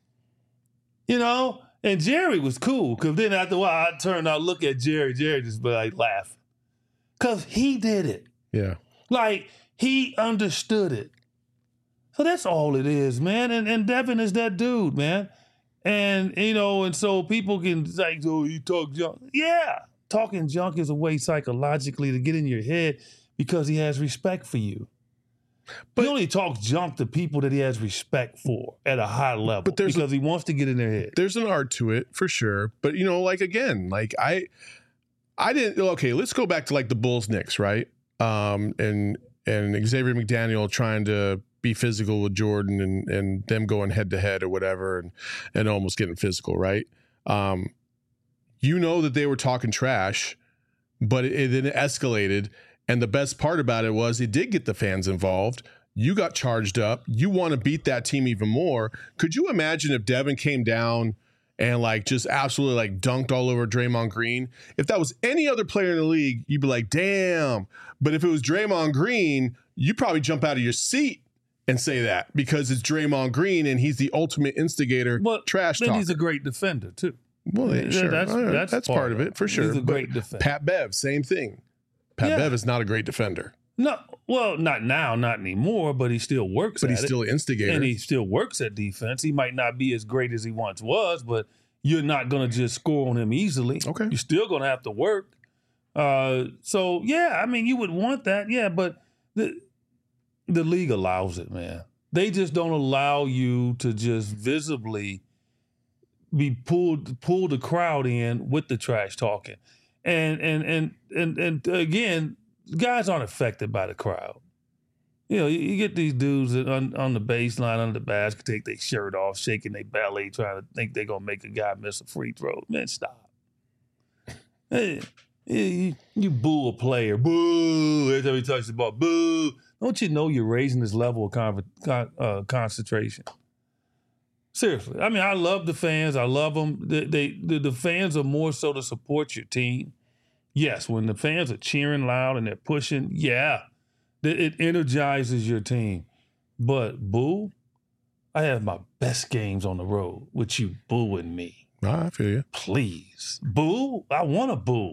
[SPEAKER 2] You know? And Jerry was cool, because then after a while, I turned out, look at Jerry. Jerry just be like laughing. Because he did it.
[SPEAKER 1] Yeah.
[SPEAKER 2] Like, he understood it. So that's all it is, man. And and Devin is that dude, man. And, you know, and so people can say, oh, you talk junk. Yeah. Talking junk is a way psychologically to get in your head because he has respect for you. But he only talks junk to people that he has respect for at a high level,
[SPEAKER 1] but there's
[SPEAKER 2] because
[SPEAKER 1] a,
[SPEAKER 2] he wants to get in their head.
[SPEAKER 1] There's an art to it for sure. But, you know, like, again, like I, I didn't, okay, let's go back to like the Bulls Knicks, right? Um, and, and Xavier McDaniel trying to be physical with Jordan and, and them going head to head or whatever and, and almost getting physical, right? Um, you know that they were talking trash, but it, it then escalated. And the best part about it was it did get the fans involved. You got charged up. You want to beat that team even more. Could you imagine if Devin came down and like just absolutely like dunked all over Draymond Green? If that was any other player in the league, you'd be like, damn. But if it was Draymond Green, you probably jump out of your seat and say that because it's Draymond Green and he's the ultimate instigator,
[SPEAKER 2] well,
[SPEAKER 1] trash
[SPEAKER 2] then
[SPEAKER 1] talker.
[SPEAKER 2] he's a great defender too.
[SPEAKER 1] Well, yeah, sure.
[SPEAKER 2] That's,
[SPEAKER 1] Right.
[SPEAKER 2] that's,
[SPEAKER 1] that's
[SPEAKER 2] part,
[SPEAKER 1] part of it for sure.
[SPEAKER 2] He's a
[SPEAKER 1] But
[SPEAKER 2] great defender.
[SPEAKER 1] Pat Bev, same thing. Pat
[SPEAKER 2] Yeah.
[SPEAKER 1] Bev is not a great defender.
[SPEAKER 2] No, well, not now, not anymore, but he still works
[SPEAKER 1] But
[SPEAKER 2] at
[SPEAKER 1] he's
[SPEAKER 2] it.
[SPEAKER 1] still an instigator.
[SPEAKER 2] And he still works at defense. He might not be as great as he once was, but you're not going to just score on him easily.
[SPEAKER 1] Okay.
[SPEAKER 2] You're still going to have to work. Uh, so, yeah, I mean, you would want that, yeah, but the the league allows it, man. They just don't allow you to just visibly be pulled, pull the crowd in with the trash talking. And, and, and, and, and again, guys aren't affected by the crowd. You know, you, you get these dudes that on, on the baseline, under the basket, take their shirt off, shaking their belly, trying to think they're going to make a guy miss a free throw. Man, stop. Hey, you, you boo a player. Boo. Every time he touches the ball, boo. Don't you know you're raising this level of con- con- uh, concentration? Seriously. I mean, I love the fans. I love them. They, they, the, the fans are more so to support your team. Yes, when the fans are cheering loud and they're pushing, yeah, it energizes your team. But boo, I have my best games on the road with you booing me.
[SPEAKER 1] Ah, I feel you.
[SPEAKER 2] Please. Boo? I want to boo.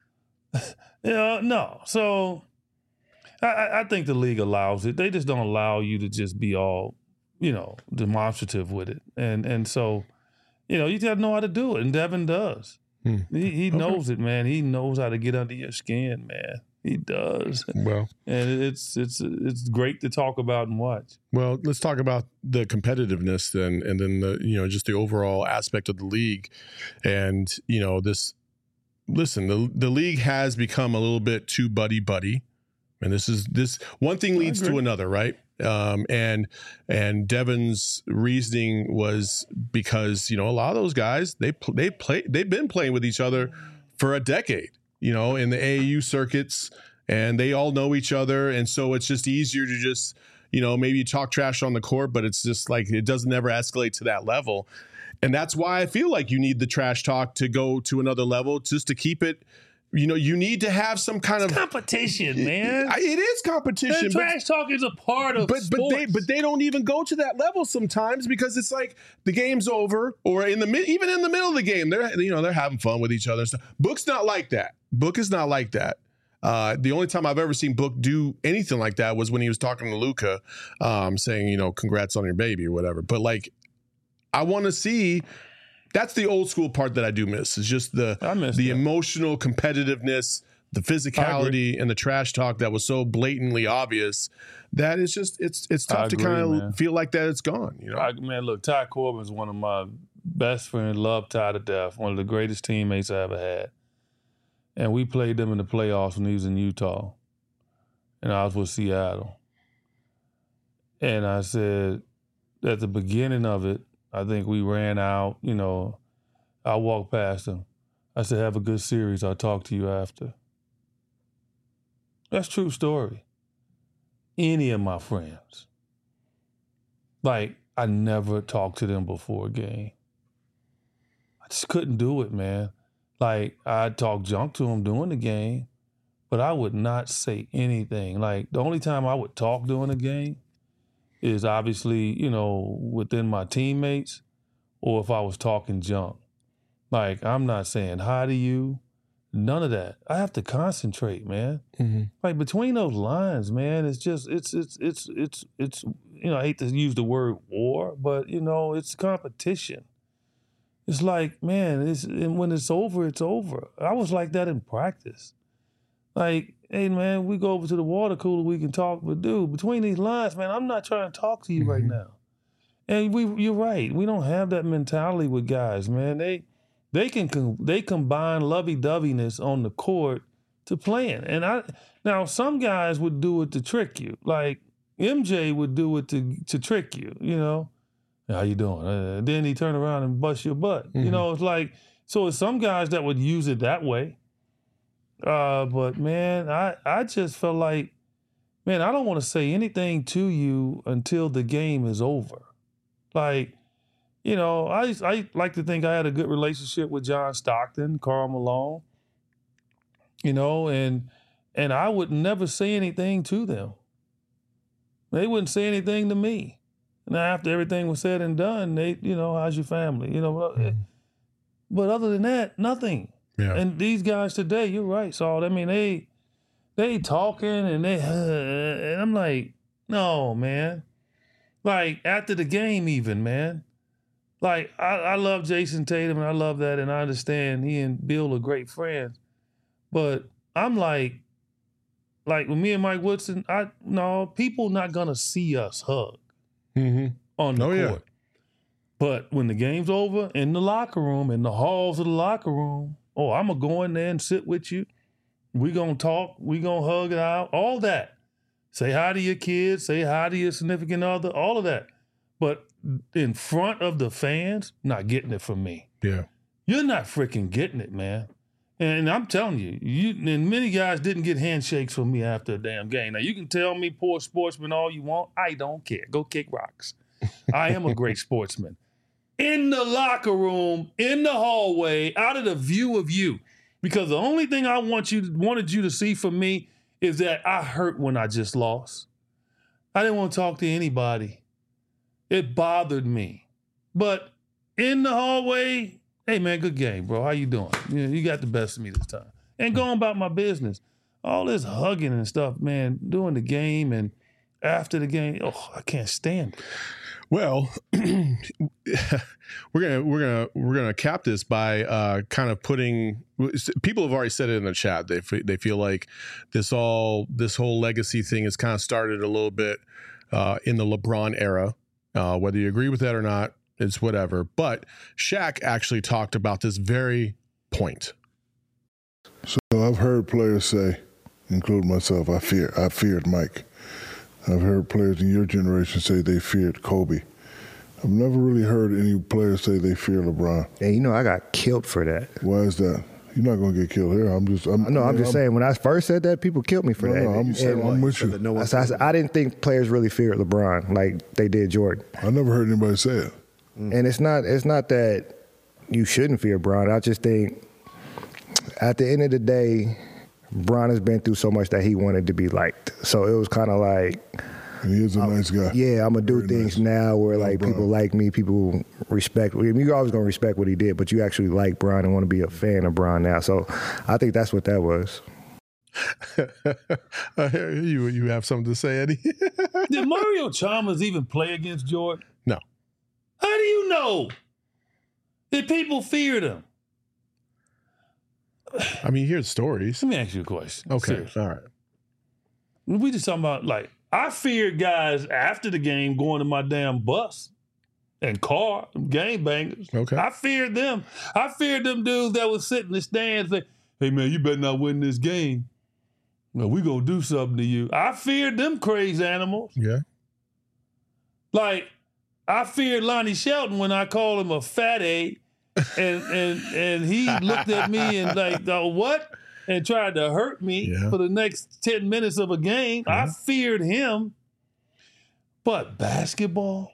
[SPEAKER 2] you know, no. So I, I think the league allows it. They just don't allow you to just be all, you know, demonstrative with it. And and so, you know, you got to know how to do it. And Devin does.
[SPEAKER 1] Hmm.
[SPEAKER 2] He, he
[SPEAKER 1] Okay.
[SPEAKER 2] knows it, man. He knows how to get under your skin, man. He does.
[SPEAKER 1] Well,
[SPEAKER 2] And it's it's it's great to talk about and watch.
[SPEAKER 1] well, let's talk about the competitiveness then, and then the you know just the overall aspect of the league, and you know this. Listen, the the league has become a little bit too buddy buddy, and this is this one thing leads to
[SPEAKER 2] agree.
[SPEAKER 1] another, right? Um, and and Devin's reasoning was because you know a lot of those guys they pl- they play they've been playing with each other for a decade, you know, in the A A U circuits, and they all know each other, and so it's just easier to just you know maybe talk trash on the court, but it's just like it doesn't ever escalate to that level. And that's why I feel like you need the trash talk to go to another level, just to keep it You know, you need to have some kind
[SPEAKER 2] it's
[SPEAKER 1] of
[SPEAKER 2] competition, man.
[SPEAKER 1] It, it is competition.
[SPEAKER 2] And trash talk is a part of
[SPEAKER 1] but
[SPEAKER 2] sports.
[SPEAKER 1] but they but they don't even go to that level sometimes because it's like the game's over, or in the mid, even in the middle of the game, they're you know they're having fun with each other and stuff. Book's not like that. Book is not like that. Uh, the only time I've ever seen Book do anything like that was when he was talking to Luka, um, saying, you know, congrats on your baby or whatever. But like, I want to see. That's the old school part that I do miss. Is just the the that. emotional competitiveness, the physicality, and the trash talk that was so blatantly obvious. That is just it's it's tough agree, to kind of feel like that it's gone. You know,
[SPEAKER 2] I, man, look, Ty Corbin's one of my best friends. Love Ty to death. One of the greatest teammates I ever had. And we played them in the playoffs when he was in Utah, and I was with Seattle. And I said, at the beginning of it, I think we ran out, you know, I walked past him. I said, have a good series. I'll talk to you after. That's a true story. Any of my friends. Like, I never talked to them before a game. I just couldn't do it, man. Like, I'd talk junk to them during the game, but I would not say anything. Like, the only time I would talk during a game is obviously, you know, within my teammates or if I was talking junk. Like, I'm not saying hi to you, none of that. I have to concentrate, man. Mm-hmm. Like, between those lines, man, it's just, it's, it's, it's, it's, it's, you know, I hate to use the word war, but, you know, it's competition. It's like, man, it's, and when it's over, it's over. I was like that in practice. Like, hey, man, we go over to the water cooler, we can talk, but dude, between these lines, man, I'm not trying to talk to you mm-hmm. right now. And we, you're right, we don't have that mentality with guys, man. They they can they combine lovey-doveyness on the court to playing. And I now some guys would do it to trick you. Like M J would do it to to trick you, you know. How you doing? Uh, then he turn around and bust your butt. Mm-hmm. You know, it's like, so it's some guys that would use it that way. Uh, but man, I, I just felt like, man, I don't want to say anything to you until the game is over. Like, you know, I I like to think I had a good relationship with John Stockton, Karl Malone, you know, and and I would never say anything to them. They wouldn't say anything to me. Now, after everything was said and done, they, you know, how's your family? You know, mm. but other than that, nothing. Yeah. And these guys today, you're right, Saul. I mean, they they talking and they, uh, and I'm like, no, man. Like after the game, even, man. Like I, I love Jason Tatum and I love that, and I understand he and Bill are great friends, but I'm like, like with me and Mike Woodson, I no people not gonna see us hug. Mm-hmm. On the oh, court. Yeah. But when the game's over, in the locker room, in the halls of the locker room, oh, I'm going to go in there and sit with you. We going to talk. We going to hug it out. All that. Say hi to your kids. Say hi to your significant other. All of that. But in front of the fans, not getting it from me.
[SPEAKER 1] Yeah.
[SPEAKER 2] You're not freaking getting it, man. And I'm telling you, you and many guys didn't get handshakes from me after a damn game. Now, you can tell me poor sportsman all you want. I don't care. Go kick rocks. I am a great sportsman. In the locker room, in the hallway, out of the view of you. Because the only thing I want you wanted you to see from me is that I hurt when I just lost. I didn't want to talk to anybody. It bothered me. But in the hallway, hey, man, good game, bro. How you doing? You, know, you got the best of me this time. And going about my business. All this hugging and stuff, man, during the game and after the game, oh, I can't stand it.
[SPEAKER 1] Well, we're gonna we're gonna we're gonna cap this by uh, kind of putting. People have already said it in the chat. They they feel like this all this whole legacy thing has kind of started a little bit uh, in the LeBron era. Uh, whether you agree with that or not, it's whatever. But Shaq actually talked about this very point.
[SPEAKER 6] So I've heard players say, including myself, I fear I feared Mike. I've heard players in your generation say they feared Kobe. I've never really heard any players say they fear LeBron.
[SPEAKER 7] Yeah, you know I got killed for that.
[SPEAKER 6] Why is that? You're not going to get killed here. I'm just. I'm,
[SPEAKER 7] no, I'm,
[SPEAKER 6] I'm
[SPEAKER 7] just I'm, saying. When I first said that, people killed me for
[SPEAKER 6] no,
[SPEAKER 7] that.
[SPEAKER 6] No, I'm, saying, I'm with you.
[SPEAKER 7] No I, I, I didn't think players really feared LeBron like they did Jordan.
[SPEAKER 6] I never heard anybody say it.
[SPEAKER 7] Mm. And it's not. It's not that you shouldn't fear LeBron. I just think at the end of the day, Bron has been through so much that he wanted to be liked. So it was kind of like,
[SPEAKER 6] and he is a I'm, nice guy.
[SPEAKER 7] Yeah, I'm gonna do Very things nice. now where like Bron. people like me, people respect. I mean, you're always gonna respect what he did, but you actually like Bron and want to be a fan of Bron now. So I think that's what that was.
[SPEAKER 1] uh, you you have something to say, Eddie?
[SPEAKER 2] Did Mario Chalmers even play against Jordan?
[SPEAKER 1] No.
[SPEAKER 2] How do you know? Did people fear him?
[SPEAKER 1] I mean, here's stories.
[SPEAKER 2] Let me ask you a question.
[SPEAKER 1] Okay,
[SPEAKER 2] Seriously.
[SPEAKER 1] all right.
[SPEAKER 2] We just talking about, like, I feared guys after the game going to my damn bus and car, them game bangers.
[SPEAKER 1] Okay.
[SPEAKER 2] I feared them. I feared them dudes that was sitting in the stands like, hey, man, you better not win this game. No, we gonna do something to you. I feared them crazy animals.
[SPEAKER 1] Yeah.
[SPEAKER 2] Like, I feared Lonnie Shelton when I called him a fat A, and and and he looked at me and like, oh, what? And tried to hurt me yeah. for the next ten minutes of a game. Yeah. I feared him. But basketball?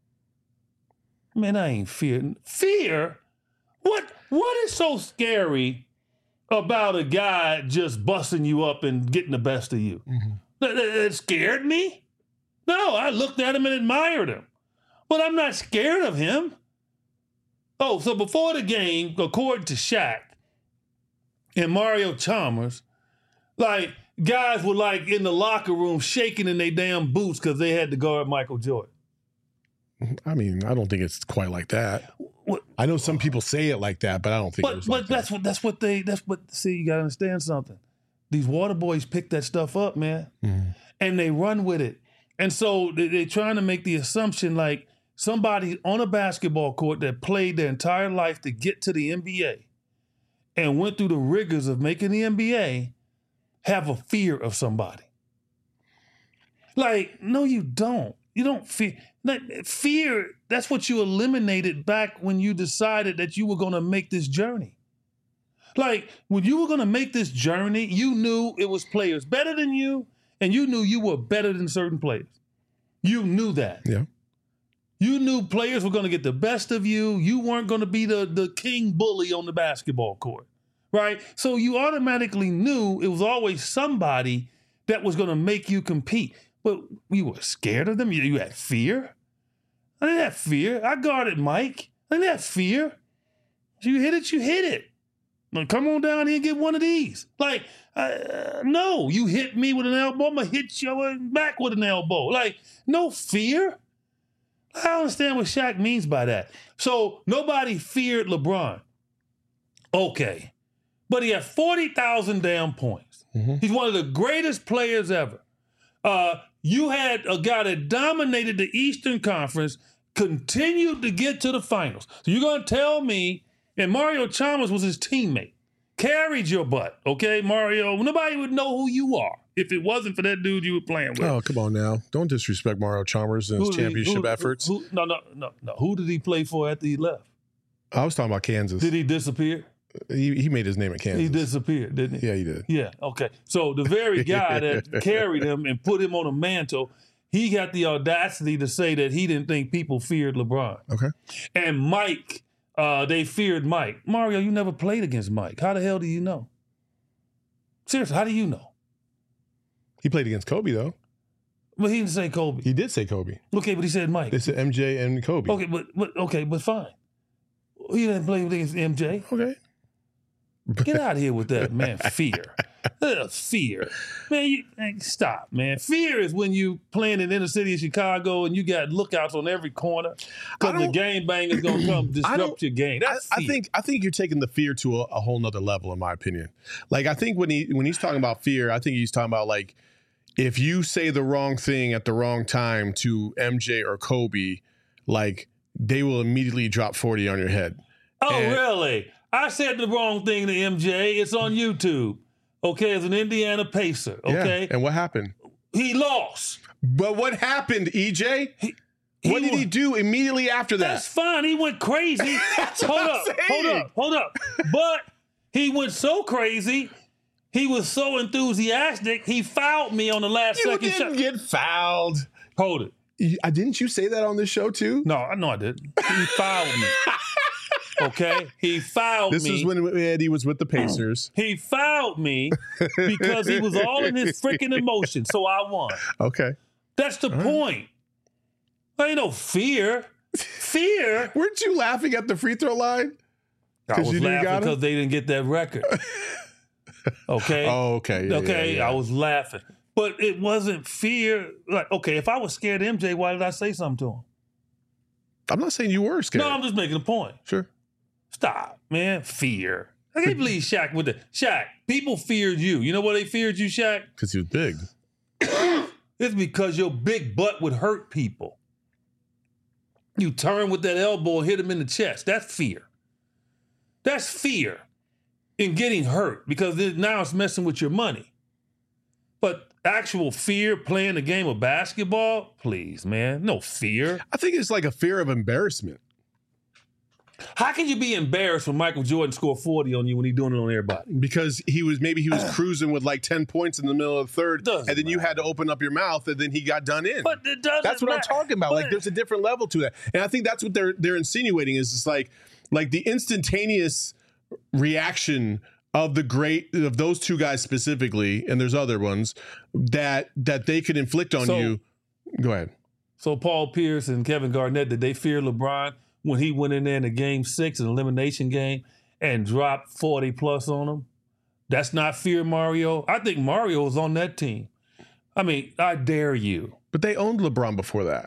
[SPEAKER 2] Man, I ain't fearing. Fear? What what is so scary about a guy just busting you up and getting the best of you? Mm-hmm. That, that scared me? No, I looked at him and admired him. But I'm not scared of him. Oh, so before the game, according to Shaq and Mario Chalmers, like, guys were like in the locker room shaking in their damn boots because they had to guard Michael Jordan.
[SPEAKER 1] I mean, I don't think it's quite like that. What? I know some people say it like that, but I don't think
[SPEAKER 2] but,
[SPEAKER 1] it was
[SPEAKER 2] but
[SPEAKER 1] like
[SPEAKER 2] that's
[SPEAKER 1] that.
[SPEAKER 2] what that's what they that's what see, you gotta understand something. These water boys pick that stuff up, man. Mm-hmm. And they run with it. And so they, they're trying to make the assumption like somebody on a basketball court that played their entire life to get to the N B A and went through the rigors of making the N B A have a fear of somebody. Like, no, you don't. You don't fear. Fear, that's what you eliminated back when you decided that you were going to make this journey. Like, when you were going to make this journey, you knew it was players better than you, and you knew you were better than certain players. You knew that.
[SPEAKER 1] Yeah.
[SPEAKER 2] You knew players were going to get the best of you. You weren't going to be the, the king bully on the basketball court, right? So you automatically knew it was always somebody that was going to make you compete. But you were scared of them? You, you had fear? I didn't have fear. I guarded Mike. I didn't have fear. So you hit it, you hit it. Now come on down here and get one of these. Like, uh, no, you hit me with an elbow, I'm going to hit you back with an elbow. Like, no fear. I don't understand what Shaq means by that. So nobody feared LeBron. Okay. But he had forty thousand damn points. Mm-hmm. He's one of the greatest players ever. Uh, you had a guy that dominated the Eastern Conference, continued to get to the finals. So you're going to tell me, and Mario Chalmers was his teammate, carried your butt, okay, Mario? Nobody would know who you are if it wasn't for that dude you were playing with.
[SPEAKER 1] Oh, come on now. Don't disrespect Mario Chalmers and his championship
[SPEAKER 2] he, who,
[SPEAKER 1] efforts.
[SPEAKER 2] Who, no, no, no, no. Who did he play for after he left?
[SPEAKER 1] I was talking about Kansas.
[SPEAKER 2] Did he disappear?
[SPEAKER 1] He, he made his name at Kansas.
[SPEAKER 2] He disappeared, didn't he?
[SPEAKER 1] Yeah, he did.
[SPEAKER 2] Yeah, okay. So the very guy that carried him and put him on a mantle, he got the audacity to say that he didn't think people feared LeBron.
[SPEAKER 1] Okay.
[SPEAKER 2] And Mike, uh, they feared Mike. Mario, you never played against Mike. How the hell do you know? Seriously, how do you know?
[SPEAKER 1] He played against Kobe, though.
[SPEAKER 2] But he didn't say Kobe.
[SPEAKER 1] He did say Kobe.
[SPEAKER 2] Okay, but he said Mike.
[SPEAKER 1] They said M J and Kobe.
[SPEAKER 2] Okay, but, but okay, but fine. He didn't play against M J.
[SPEAKER 1] Okay.
[SPEAKER 2] Get out of here with that, man. Fear. Ugh, fear. Man, you, man, stop, man. Fear is when you playing in the inner city of Chicago and you got lookouts on every corner because the game bang is going to come disrupt your game. That's
[SPEAKER 1] I,
[SPEAKER 2] fear.
[SPEAKER 1] I think I think you're taking the fear to a, a whole nother level, in my opinion. Like, I think when he when he's talking about fear, I think he's talking about, like, if you say the wrong thing at the wrong time to M J or Kobe, like, they will immediately drop forty on your head.
[SPEAKER 2] Oh,
[SPEAKER 1] and,
[SPEAKER 2] really? I said the wrong thing to M J. It's on YouTube. Okay, as an Indiana Pacer. Okay.
[SPEAKER 1] Yeah. And what happened?
[SPEAKER 2] He lost.
[SPEAKER 1] But what happened, E J? He, he what did went, he do immediately after that?
[SPEAKER 2] That's fine. He went crazy. hold up, hold up, hold up. But he went so crazy, he was so enthusiastic, he fouled me on the last
[SPEAKER 1] you
[SPEAKER 2] second shot.
[SPEAKER 1] You didn't get fouled.
[SPEAKER 2] Hold it.
[SPEAKER 1] You, uh, didn't you say that on this show too?
[SPEAKER 2] No, I know I didn't. He fouled me. Okay? He fouled
[SPEAKER 1] This
[SPEAKER 2] me.
[SPEAKER 1] is when Eddie was with the Pacers.
[SPEAKER 2] He fouled me because he was all in his freaking emotion, so I won.
[SPEAKER 1] Okay.
[SPEAKER 2] That's the point. There ain't no fear. Fear?
[SPEAKER 1] Weren't you laughing at the free throw line?
[SPEAKER 2] I was
[SPEAKER 1] you knew you
[SPEAKER 2] laughing
[SPEAKER 1] got him?
[SPEAKER 2] because they didn't get that record. Okay?
[SPEAKER 1] Oh, okay. Yeah,
[SPEAKER 2] okay,
[SPEAKER 1] yeah, yeah.
[SPEAKER 2] I was laughing. But it wasn't fear. Like, okay, if I was scared of M J, why did I say something to him?
[SPEAKER 1] I'm not saying you were scared.
[SPEAKER 2] No, I'm just making a point.
[SPEAKER 1] Sure.
[SPEAKER 2] Stop, man. Fear. I can't believe Shaq with the Shaq. People feared you. You know why they feared you, Shaq?
[SPEAKER 1] Because he was big.
[SPEAKER 2] It's because your big butt would hurt people. You turn with that elbow and hit him in the chest. That's fear. That's fear in getting hurt because it, now it's messing with your money. But actual fear playing the game of basketball, please, man, no fear.
[SPEAKER 1] I think it's like a fear of embarrassment.
[SPEAKER 2] How can you be embarrassed when Michael Jordan scored forty on you when he's doing it on everybody?
[SPEAKER 1] Because he was maybe he was cruising with like ten points in the middle of the third,
[SPEAKER 2] Doesn't
[SPEAKER 1] and then you
[SPEAKER 2] matter.
[SPEAKER 1] had to open up your mouth, and then he got done in.
[SPEAKER 2] But it doesn't
[SPEAKER 1] That's what I'm
[SPEAKER 2] matter.
[SPEAKER 1] talking about.
[SPEAKER 2] But-
[SPEAKER 1] Like there's a different level to that, and I think that's what they're they're insinuating is it's like like the instantaneous reaction of the great of those two guys specifically, and there's other ones that that they could inflict on
[SPEAKER 2] So-
[SPEAKER 1] you. Go ahead.
[SPEAKER 2] So Paul Pierce and Kevin Garnett, did they fear LeBron when he went in there in the game six, an elimination game, and dropped forty plus on them? That's not fear, Mario. I think Mario was on that team. I mean, I dare you.
[SPEAKER 1] But they owned LeBron before that.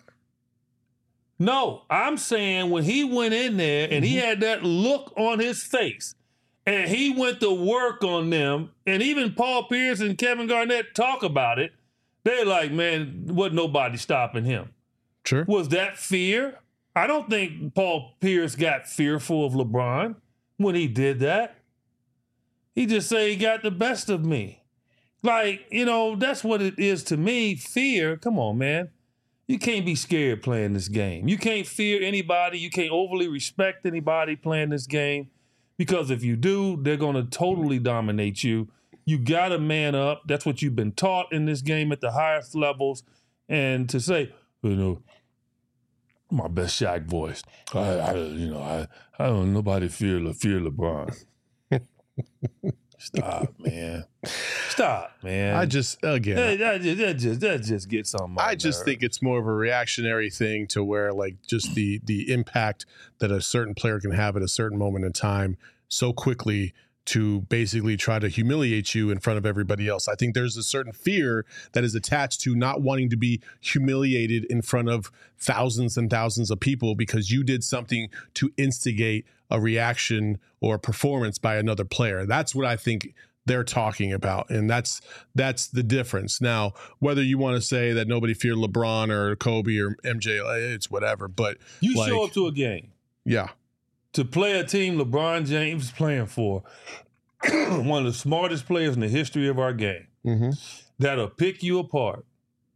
[SPEAKER 2] No, I'm saying when he went in there and he had that look on his face and he went to work on them, and even Paul Pierce and Kevin Garnett talk about it, they're like, man, wasn't nobody stopping him.
[SPEAKER 1] Sure.
[SPEAKER 2] Was that fear? I don't think Paul Pierce got fearful of LeBron when he did that. He just said he got the best of me. Like, you know, that's what it is to me. Fear. Come on, man. You can't be scared playing this game. You can't fear anybody. You can't overly respect anybody playing this game because if you do, they're going to totally dominate you. You got to man up. That's what you've been taught in this game at the highest levels. And to say, you know, my best Shaq voice. I, I you know, I, I don't. Nobody fear Le, fear LeBron. Stop, man. Stop, man.
[SPEAKER 1] I just again.
[SPEAKER 2] that, that just that just that just gets on my.
[SPEAKER 1] I just
[SPEAKER 2] nerve.
[SPEAKER 1] think it's more of a reactionary thing to where like just the the impact that a certain player can have at a certain moment in time so quickly to basically try to humiliate you in front of everybody else. I think there's a certain fear that is attached to not wanting to be humiliated in front of thousands and thousands of people because you did something to instigate a reaction or a performance by another player. That's what I think they're talking about. And that's that's the difference. Now, whether you want to say that nobody feared LeBron or Kobe or M J, it's whatever. But
[SPEAKER 2] you
[SPEAKER 1] like,
[SPEAKER 2] show up to a game
[SPEAKER 1] yeah.
[SPEAKER 2] to play a team LeBron James is playing for, one of the smartest players in the history of our game,
[SPEAKER 1] Mm-hmm.
[SPEAKER 2] that'll pick you apart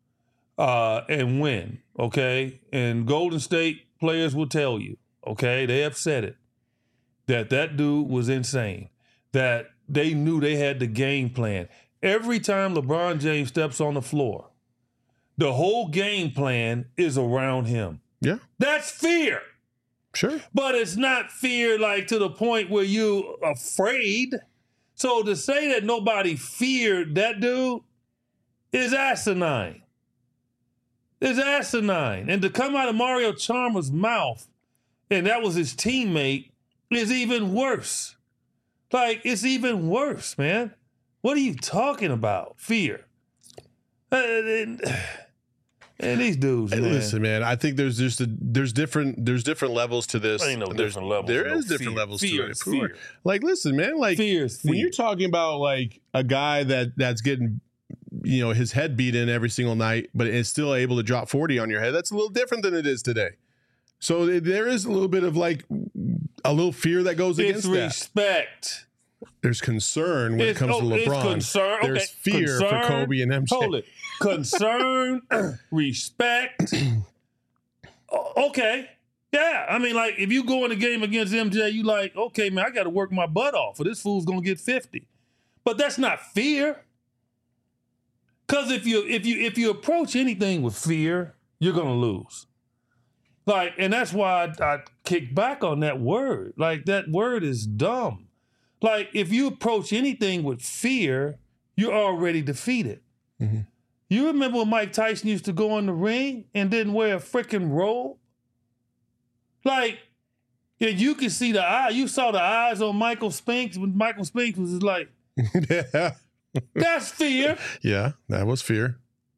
[SPEAKER 2] uh, and win, okay? And Golden State players will tell you, okay, they have said it, that that dude was insane, that they knew they had the game plan. Every time LeBron James steps on the floor, the whole game plan is around him.
[SPEAKER 1] Yeah.
[SPEAKER 2] That's fear.
[SPEAKER 1] Sure.
[SPEAKER 2] But it's not fear like to the point where you afraid. So to say that nobody feared that dude is asinine. It's asinine. And to come out of Mario Chalmers' mouth, and that was his teammate, is even worse. Like, it's even worse, man. What are you talking about? Fear. Uh, and, and these dudes,
[SPEAKER 1] Hey,
[SPEAKER 2] man.
[SPEAKER 1] listen, man. I think there's just a, there's different there's different levels to this.
[SPEAKER 2] Ain't no
[SPEAKER 1] There's-
[SPEAKER 2] different levels.
[SPEAKER 1] There
[SPEAKER 2] No
[SPEAKER 1] is different
[SPEAKER 2] fear.
[SPEAKER 1] levels
[SPEAKER 2] Fear
[SPEAKER 1] to
[SPEAKER 2] is
[SPEAKER 1] it.
[SPEAKER 2] fear.
[SPEAKER 1] Like, listen, man. Like
[SPEAKER 2] Fear is
[SPEAKER 1] when
[SPEAKER 2] fear.
[SPEAKER 1] you're talking about like a guy that that's getting, you know, his head beat in every single night, but is still able to drop forty on your head. That's a little different than it is today. So th- there is a little bit of like a little fear that goes
[SPEAKER 2] It's
[SPEAKER 1] against that.
[SPEAKER 2] respect.
[SPEAKER 1] There's concern when
[SPEAKER 2] It's-
[SPEAKER 1] it comes
[SPEAKER 2] oh,
[SPEAKER 1] to
[SPEAKER 2] it's
[SPEAKER 1] LeBron.
[SPEAKER 2] concern.
[SPEAKER 1] There's
[SPEAKER 2] Okay.
[SPEAKER 1] fear
[SPEAKER 2] Concern.
[SPEAKER 1] for Kobe and M J.
[SPEAKER 2] Hold it. Concern, respect. O- okay. Yeah. I mean, like, if you go in a game against M J, you like, okay, man, I got to work my butt off or this fool's going to get fifty. But that's not fear. Because if you if you if you approach anything with fear, you're going to lose. Like, and that's why I, I kick back on that word. Like, that word is dumb. Like, if you approach anything with fear, you're already defeated.
[SPEAKER 1] Mm-hmm.
[SPEAKER 2] You remember when Mike Tyson used to go in the ring and didn't wear a freaking robe? Like, and you could see the eye. You saw the eyes on Michael Spinks when Michael Spinks was just like,
[SPEAKER 1] yeah.
[SPEAKER 2] That's fear.
[SPEAKER 1] Yeah, that was fear.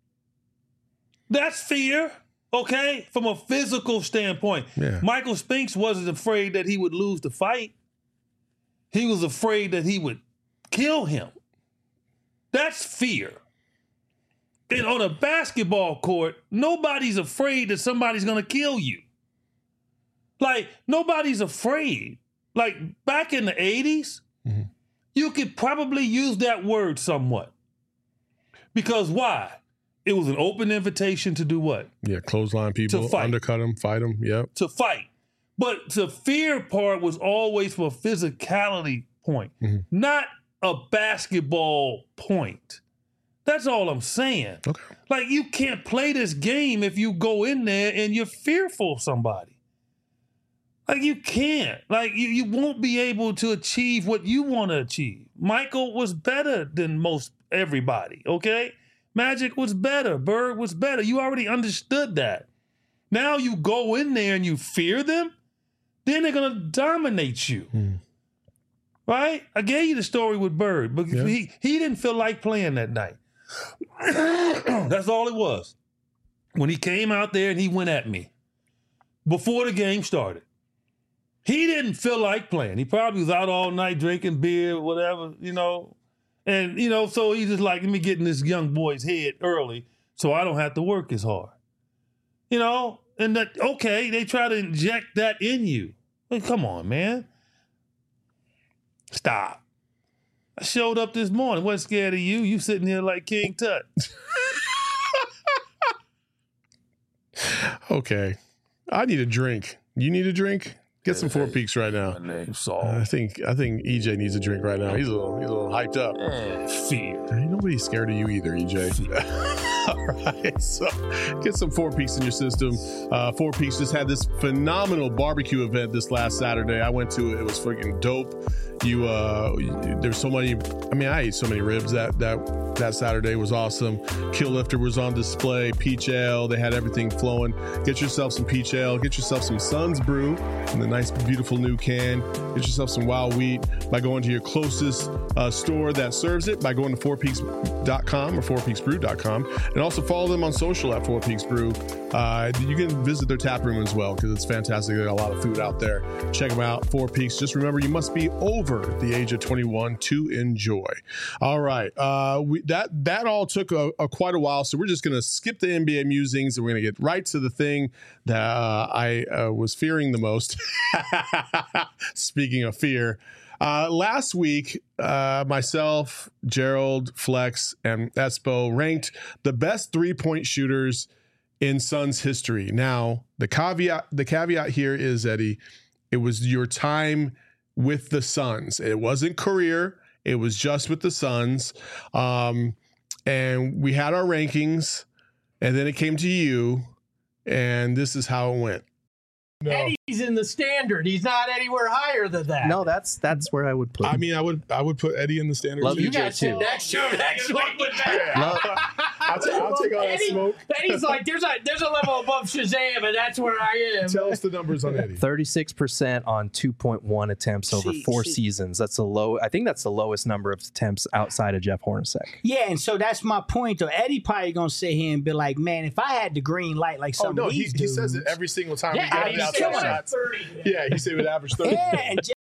[SPEAKER 2] That's fear. Okay? From a physical standpoint.
[SPEAKER 1] Yeah.
[SPEAKER 2] Michael Spinks wasn't afraid that he would lose the fight. He was afraid that he would kill him. That's fear. And on a basketball court, nobody's afraid that somebody's going to kill you. Like, nobody's afraid. Like, back in the eighties,
[SPEAKER 1] mm-hmm.
[SPEAKER 2] you could probably use that word somewhat. Because why? It was an open invitation to do what?
[SPEAKER 1] Yeah, clothesline people,
[SPEAKER 2] To fight.
[SPEAKER 1] undercut them, fight them, yep.
[SPEAKER 2] To fight. But the fear part was always from a physicality point,
[SPEAKER 1] mm-hmm.
[SPEAKER 2] not a basketball point. That's all I'm saying.
[SPEAKER 1] Okay.
[SPEAKER 2] Like, you can't play this game if you go in there and you're fearful of somebody. Like, you can't. Like, you, you won't be able to achieve what you want to achieve. Michael was better than most everybody, okay? Magic was better. Bird was better. You already understood that. Now you go in there and you fear them, then they're going to dominate you.
[SPEAKER 1] Mm.
[SPEAKER 2] Right? I gave you the story with Bird, but
[SPEAKER 1] Yeah.
[SPEAKER 2] he, he didn't feel like playing that night. That's all it was. When he came out there and he went at me before the game started, he didn't feel like playing. He probably was out all night drinking beer, whatever, you know. And, you know, so he's just like, let me get in this young boy's head early so I don't have to work as hard. You know? And that, okay, they try to inject that in you. Like, come on, man. Stop. I showed up this morning. Wasn't scared of you. You sitting here like King Tut.
[SPEAKER 1] Okay. I need a drink. You need a drink? Get some Four Peaks right now.
[SPEAKER 2] My name's Saul.
[SPEAKER 1] I think I think E J needs a drink right now. He's a little, he's a little hyped up.
[SPEAKER 2] Eh, fear.
[SPEAKER 1] Ain't nobody's scared of you either, E J. All right, so get some Four Peaks in your system. Uh, Four Peaks just had this phenomenal barbecue event this last Saturday. I went to it. It was freaking dope. You, uh, there's so many. I mean, I ate so many ribs that that that Saturday was awesome. Kill Lifter was on display. Peach ale. They had everything flowing. Get yourself some peach ale. Get yourself some Sun's Brew in the nice, beautiful new can. Get yourself some Wild Wheat by going to your closest uh, store that serves it. By going to four peaks dot com or four peaks brew dot com, and also follow them on social at Four Peaks Brew. Uh, you can visit their tap room as well because it's fantastic. They got a lot of food out there. Check them out. Four Peaks. Just remember, you must be over the age of twenty-one to enjoy. All right. Uh, we, that that all took a, a quite a while, so we're just going to skip the N B A musings and we're going to get right to the thing that uh, I uh, was fearing the most. Speaking of fear, uh, last week, uh, myself, Gerald, Flex, and Espo ranked the best three-point shooters in Suns history. Now, the caveat the caveat here is, Eddie, it was your time with the Suns. It wasn't career. It was just with the Suns. Um, and we had our rankings, and then it came to you, and this is how it went.
[SPEAKER 8] No. Eddie's in the standard. He's not anywhere higher than that.
[SPEAKER 9] No, that's that's where I would put him.
[SPEAKER 1] I mean, I would I would put Eddie in the standard.
[SPEAKER 9] Love
[SPEAKER 8] you
[SPEAKER 9] you,
[SPEAKER 8] guys sit
[SPEAKER 9] too.
[SPEAKER 8] next to him next week.
[SPEAKER 9] Love,
[SPEAKER 1] I'll, t- I'll take all that
[SPEAKER 8] Eddie,
[SPEAKER 1] smoke.
[SPEAKER 8] Eddie's like, there's a there's a level above Shazam, and that's where I am.
[SPEAKER 1] Tell us the numbers on Eddie.
[SPEAKER 9] thirty-six percent on two point one attempts over
[SPEAKER 8] See,
[SPEAKER 9] four
[SPEAKER 8] see.
[SPEAKER 9] seasons. That's the low. I think that's the lowest number of attempts outside of Jeff Hornacek.
[SPEAKER 10] Yeah, and so that's my point. Though Eddie probably gonna sit here and be like, "Man, if I had the green light like some
[SPEAKER 1] Oh no,
[SPEAKER 10] of
[SPEAKER 1] he,
[SPEAKER 10] these
[SPEAKER 1] he
[SPEAKER 10] dudes,
[SPEAKER 1] says it every single time
[SPEAKER 8] Yeah,
[SPEAKER 1] we get
[SPEAKER 8] Eddie's
[SPEAKER 1] the outside
[SPEAKER 8] killing it.
[SPEAKER 1] shots.
[SPEAKER 8] thirty.
[SPEAKER 1] Yeah, he said it would average thirty.
[SPEAKER 10] yeah, and just,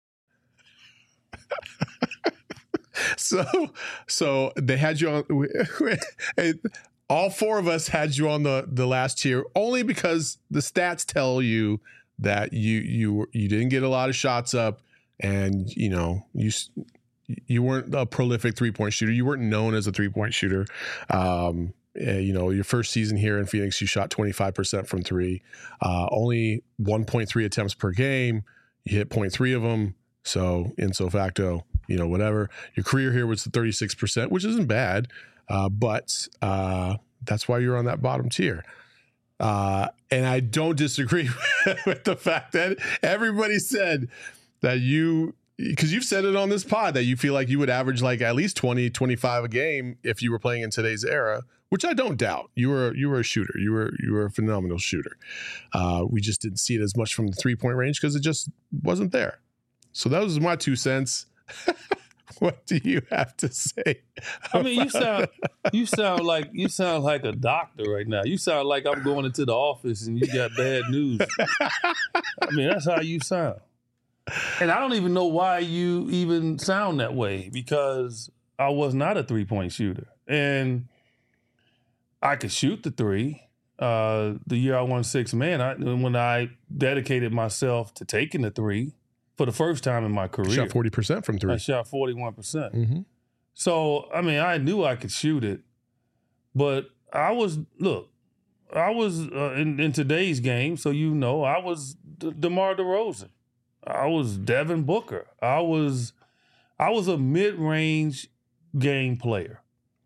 [SPEAKER 1] So, so they had you on. and all four of us had you on the the last tier only because the stats tell you that you you you didn't get a lot of shots up, and you know you you weren't a prolific three point shooter. You weren't known as a three point shooter. Um, uh, you know, your first season here in Phoenix, you shot twenty-five percent from three, uh, only one point three attempts per game. You hit zero point three of them. So, in so facto, you know, whatever. Your career here was thirty-six percent, which isn't bad, uh, but uh, that's why you're on that bottom tier. Uh, and I don't disagree with the fact that everybody said that you, because you've said it on this pod, that you feel like you would average like at least twenty, twenty-five a game if you were playing in today's era, which I don't doubt. You were you were a shooter. You were you were a phenomenal shooter. Uh, we just didn't see it as much from the three-point range because it just wasn't there. So that was my two cents. What do you have to say?
[SPEAKER 2] I mean, you sound you sound like you sound like a doctor right now. You sound like I'm going into the office and you got bad news. I mean, that's how you sound. And I don't even know why you even sound that way, because I was not a three-point shooter. And I could shoot the three. Uh, the year I won six man, I, when I dedicated myself to taking the three, for the first time in my career.
[SPEAKER 1] Shot forty percent from three.
[SPEAKER 2] I shot forty-one percent.
[SPEAKER 1] Mm-hmm.
[SPEAKER 2] So, I mean, I knew I could shoot it, but I was, look, I was uh, in, in today's game, so you know, I was De- DeMar DeRozan. I was Devin Booker. I was, I was a mid-range game player.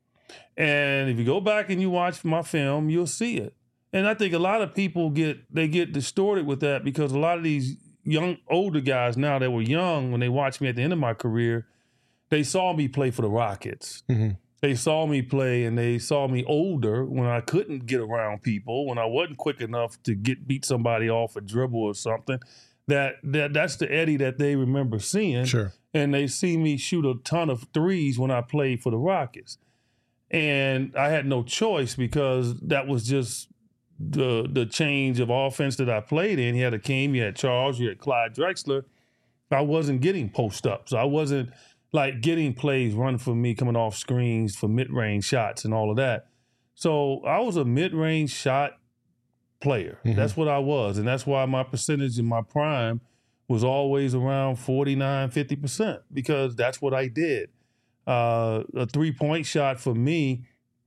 [SPEAKER 2] And if you go back and you watch my film, you'll see it. And I think a lot of people get, they get distorted with that, because a lot of these young, older guys now that were young when they watched me at the end of my career, they saw me play for the Rockets.
[SPEAKER 1] Mm-hmm.
[SPEAKER 2] They saw me play, and they saw me older when I couldn't get around people, when I wasn't quick enough to get beat somebody off a dribble or something. That that that's the Eddie that they remember seeing.
[SPEAKER 1] Sure.
[SPEAKER 2] And they see me shoot a ton of threes when I played for the Rockets. And I had no choice, because that was just the the change of offense that I played in. You had Akeem, you had Charles, you had Clyde Drexler. I wasn't getting post-ups. I wasn't like getting plays run for me coming off screens for mid-range shots and all of that. So I was a mid-range shot player. Mm-hmm. That's what I was. And that's why my percentage in my prime was always around forty-nine, fifty percent, because that's what I did. Uh, a three-point shot for me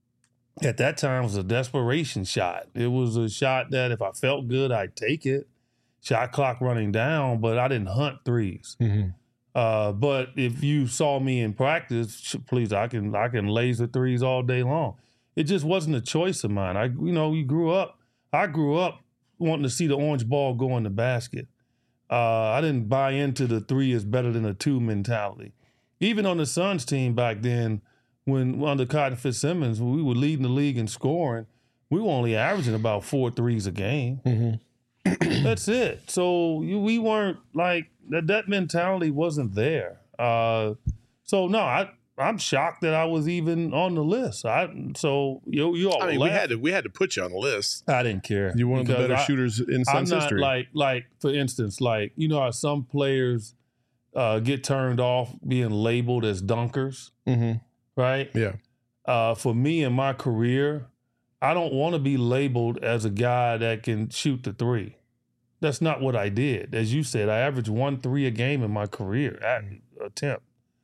[SPEAKER 2] at that time was a desperation shot. It was a shot that if I felt good, I'd take it. Shot clock running down, but I didn't hunt threes.
[SPEAKER 1] Mm-hmm.
[SPEAKER 2] Uh, but if you saw me in practice, please, I can I can laser threes all day long. It just wasn't a choice of mine. I, you know, you grew up. I grew up wanting to see the orange ball go in the basket. Uh, I didn't buy into the three is better than a two mentality. Even on the Suns team back then, when under Cotton Fitzsimmons, when we were leading the league in scoring, we were only averaging about four threes a game.
[SPEAKER 1] Mm-hmm.
[SPEAKER 2] That's it. So you, we weren't like that. That mentality wasn't there. Uh, so no, I I'm shocked that I was even on the list. I so you you all.
[SPEAKER 1] I mean, we had to we had to put you on the list.
[SPEAKER 2] I didn't care.
[SPEAKER 1] You're one of the better
[SPEAKER 2] I,
[SPEAKER 1] shooters in Suns
[SPEAKER 2] I'm not
[SPEAKER 1] history.
[SPEAKER 2] Like like for instance, like you know how some players uh, get turned off being labeled as dunkers,
[SPEAKER 1] mm-hmm.
[SPEAKER 2] right?
[SPEAKER 1] Yeah.
[SPEAKER 2] Uh, for me in my career, I don't want to be labeled as a guy that can shoot the three. That's not what I did. As you said, I averaged one three a game in my career at attempt.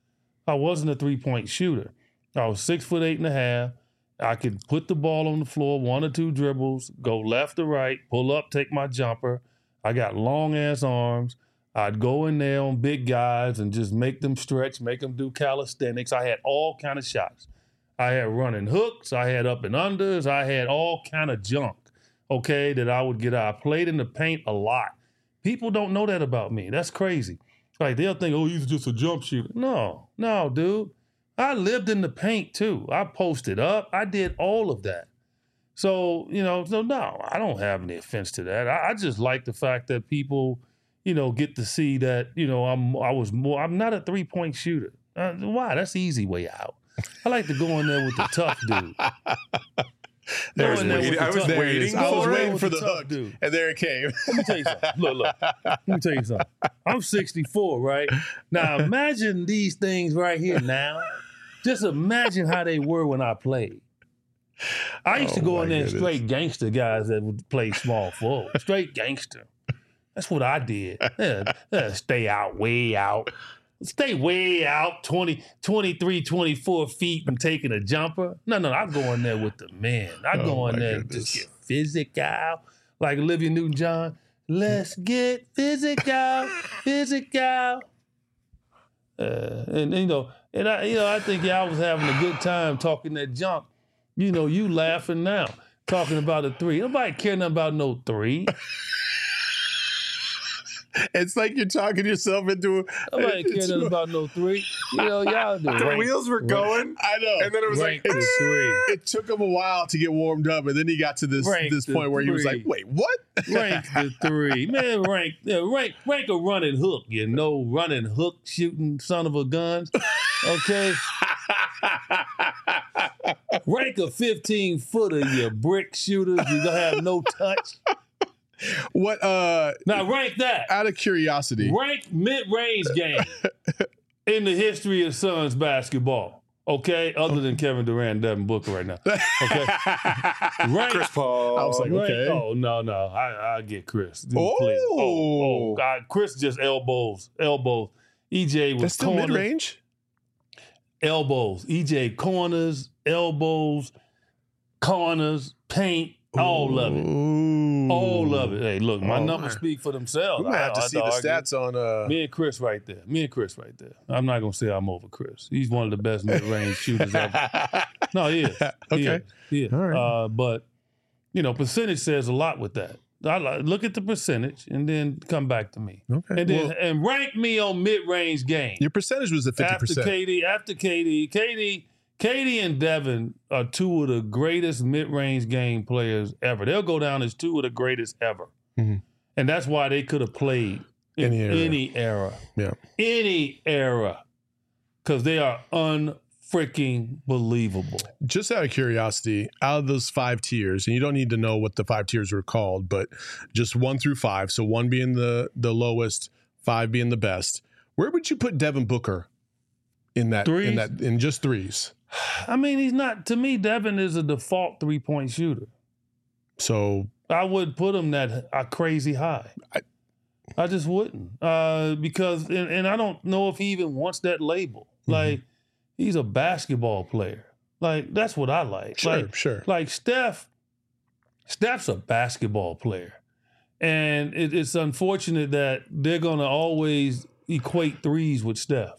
[SPEAKER 2] I wasn't a three-point shooter. I was six foot eight and a half. I could put the ball on the floor, one or two dribbles, go left or right, pull up, take my jumper. I got long-ass arms. I'd go in there on big guys and just make them stretch, make them do calisthenics. I had all kind of shots. I had running hooks. I had up and unders. I had all kind of junk, okay, that I would get out. I played in the paint a lot. People don't know that about me. That's crazy. Like, they'll think, oh, he's just a jump shooter. No, no, dude. I lived in the paint, too. I posted up. I did all of that. So, you know, so no, I don't have any offense to that. I, I just like the fact that people, you know, get to see that, you know, I'm I was more, I'm not a three-point shooter. Uh, why? That's the easy way out. I like to go in there with the tough dude.
[SPEAKER 1] There was
[SPEAKER 2] There
[SPEAKER 3] waiting, I was
[SPEAKER 2] tough-
[SPEAKER 3] waiting
[SPEAKER 1] I was
[SPEAKER 3] for
[SPEAKER 1] waiting
[SPEAKER 3] it.
[SPEAKER 1] for the
[SPEAKER 2] tough
[SPEAKER 1] hook,
[SPEAKER 2] dude.
[SPEAKER 1] and there it came.
[SPEAKER 2] Let me tell you something. Look, look. Let me tell you something. I'm sixty-four, right? Now imagine these things right here now. Just imagine how they were when I played. I used
[SPEAKER 1] Oh,
[SPEAKER 2] to go
[SPEAKER 1] my
[SPEAKER 2] in there and
[SPEAKER 1] goodness.
[SPEAKER 2] straight gangster guys that would play small forward. Straight gangster. That's what I did. Yeah, yeah, stay out, way out. Stay way out, twenty, twenty-three, twenty-four feet and taking a jumper. No, no, I go in there with the men. I
[SPEAKER 1] Oh,
[SPEAKER 2] go in
[SPEAKER 1] my
[SPEAKER 2] there and
[SPEAKER 1] goodness.
[SPEAKER 2] just get physical. Like Olivia Newton-John. Let's get physical, physical. Uh, and, you know, and I, you know, I think y'all was having a good time talking that junk. You know, you laughing now. talking about a three. Nobody care nothing about no three.
[SPEAKER 1] It's like you're talking yourself into.
[SPEAKER 2] Nobody care nothing about no three. You know, y'all do.
[SPEAKER 3] The
[SPEAKER 2] Rank,
[SPEAKER 3] wheels were going.
[SPEAKER 1] I know.
[SPEAKER 3] And then it was
[SPEAKER 2] rank
[SPEAKER 3] like,
[SPEAKER 2] the three.
[SPEAKER 1] It took him a while to get warmed up, and then he got to this
[SPEAKER 2] Rank
[SPEAKER 1] this
[SPEAKER 2] the
[SPEAKER 1] point where he was
[SPEAKER 2] three.
[SPEAKER 1] like, "Wait, what?"
[SPEAKER 2] Rank the three. Man, rank, yeah, rank, rank a running hook. You know, running hook shooting son of a gun. Okay. Rank a fifteen footer, you brick shooters. You gonna have no touch.
[SPEAKER 1] What? Uh,
[SPEAKER 2] Now rank that.
[SPEAKER 1] out of curiosity,
[SPEAKER 2] Rank mid-range game in the history of Suns basketball. Okay, other than Kevin Durant and Devin Booker right now. Okay, rank.
[SPEAKER 3] Chris Paul.
[SPEAKER 1] I was like,
[SPEAKER 2] rank-
[SPEAKER 1] okay.
[SPEAKER 2] Oh no, no, I I get Chris. Dude,
[SPEAKER 1] Oh.
[SPEAKER 2] please. oh, oh, God, Chris just elbows, elbows. E J was
[SPEAKER 1] that's still
[SPEAKER 2] corners,
[SPEAKER 1] mid range.
[SPEAKER 2] elbows. E J corners, elbows, corners, paint, all of it. All of it. Hey, look, my
[SPEAKER 1] Oh,
[SPEAKER 2] numbers
[SPEAKER 1] man.
[SPEAKER 2] speak for themselves.
[SPEAKER 1] We might
[SPEAKER 2] I-
[SPEAKER 1] have to
[SPEAKER 2] I
[SPEAKER 1] see the
[SPEAKER 2] argue.
[SPEAKER 1] stats on. Uh,
[SPEAKER 2] Me and Chris right there. Me and Chris right there. I'm not gonna say I'm over Chris. He's one of the best mid-range shooters ever. No, he is. He
[SPEAKER 1] Okay.
[SPEAKER 2] is. He is.
[SPEAKER 1] All right.
[SPEAKER 2] Uh, but you know, percentage says a lot with that. I like, look at the percentage and then come back to me.
[SPEAKER 1] Okay.
[SPEAKER 2] And then
[SPEAKER 1] Well,
[SPEAKER 2] and rank me on mid-range game.
[SPEAKER 1] your percentage was at fifty
[SPEAKER 2] After
[SPEAKER 1] percent.
[SPEAKER 2] K D, after K D, K D, K D and Devin are two of the greatest mid-range game players ever. They'll go down as two of the greatest ever.
[SPEAKER 1] Mhm.
[SPEAKER 2] And that's why they could have played in
[SPEAKER 1] Any era.
[SPEAKER 2] any era.
[SPEAKER 1] Yeah.
[SPEAKER 2] Any era. Because they are unfreaking believable.
[SPEAKER 1] Just out of curiosity, out of those five tiers, and you don't need to know what the five tiers were called, but just one through five. So one being the the lowest, five being the best. Where would you put Devin Booker in that?
[SPEAKER 2] Threes?
[SPEAKER 1] In that? In just threes.
[SPEAKER 2] I mean, he's not, to me, Devin is a default three-point shooter.
[SPEAKER 1] So
[SPEAKER 2] I would put him that uh, crazy high.
[SPEAKER 1] I-
[SPEAKER 2] I just wouldn't. Uh, because, and, and I don't know if he even wants that label.
[SPEAKER 1] Mm-hmm.
[SPEAKER 2] Like, he's a basketball player. Like, that's what I like.
[SPEAKER 1] sure,
[SPEAKER 2] Like,
[SPEAKER 1] sure.
[SPEAKER 2] Like Steph, Steph's a basketball player. And it, it's unfortunate that they're going to always equate threes with Steph.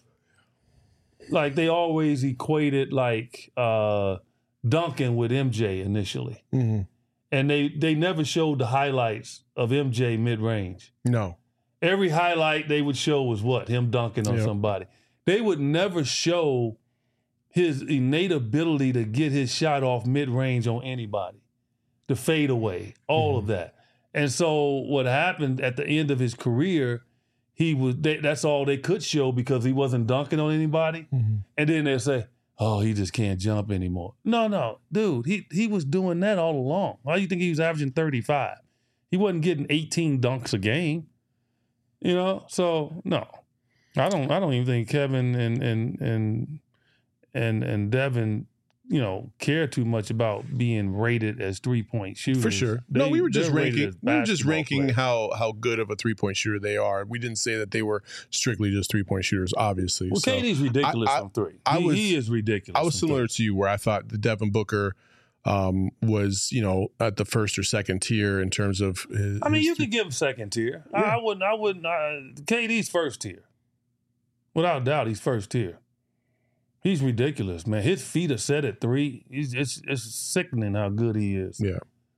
[SPEAKER 2] Like they always equated like uh, Duncan with M J initially.
[SPEAKER 1] Mm-hmm.
[SPEAKER 2] And they, they never showed the highlights of M J mid-range.
[SPEAKER 1] No.
[SPEAKER 2] Every highlight they would show was what? Him dunking on
[SPEAKER 1] Yep.
[SPEAKER 2] somebody. They would never show his innate ability to get his shot off mid-range on anybody, the fadeaway, all of that. And so what happened at the end of his career, he was they, that's all they could show because he wasn't dunking on anybody. And then they say, "Oh, he just can't jump anymore." No, no, dude, he he was doing that all along. Why do you think he was averaging thirty-five? He wasn't getting eighteen dunks a game. You know, so no, I don't. I don't even think Kevin and and and and and Devin, you know, care too much about being rated as three point shooters.
[SPEAKER 1] For sure. no,
[SPEAKER 2] They-
[SPEAKER 1] we were just
[SPEAKER 2] they're rated
[SPEAKER 1] ranking.
[SPEAKER 2] as
[SPEAKER 1] We were just
[SPEAKER 2] basketball
[SPEAKER 1] ranking
[SPEAKER 2] players.
[SPEAKER 1] how how good of a three point shooter they are. We didn't say that they were strictly just three point shooters. Obviously,
[SPEAKER 2] Well,
[SPEAKER 1] so
[SPEAKER 2] K D's ridiculous
[SPEAKER 1] I- I-
[SPEAKER 2] from three.
[SPEAKER 1] I
[SPEAKER 2] he,
[SPEAKER 1] was-
[SPEAKER 2] he is ridiculous.
[SPEAKER 1] I was
[SPEAKER 2] from
[SPEAKER 1] similar
[SPEAKER 2] three.
[SPEAKER 1] to you, where I thought the Devin Booker um, was, you know, at the first or second tier in terms of. His,
[SPEAKER 2] I mean,
[SPEAKER 1] his
[SPEAKER 2] you could give him second tier. I, I wouldn't. I wouldn't. Uh, K D's first tier, without doubt. He's first tier. He's ridiculous, man. His feet are set at three. He's, it's it's sickening how good he is.
[SPEAKER 1] Yeah.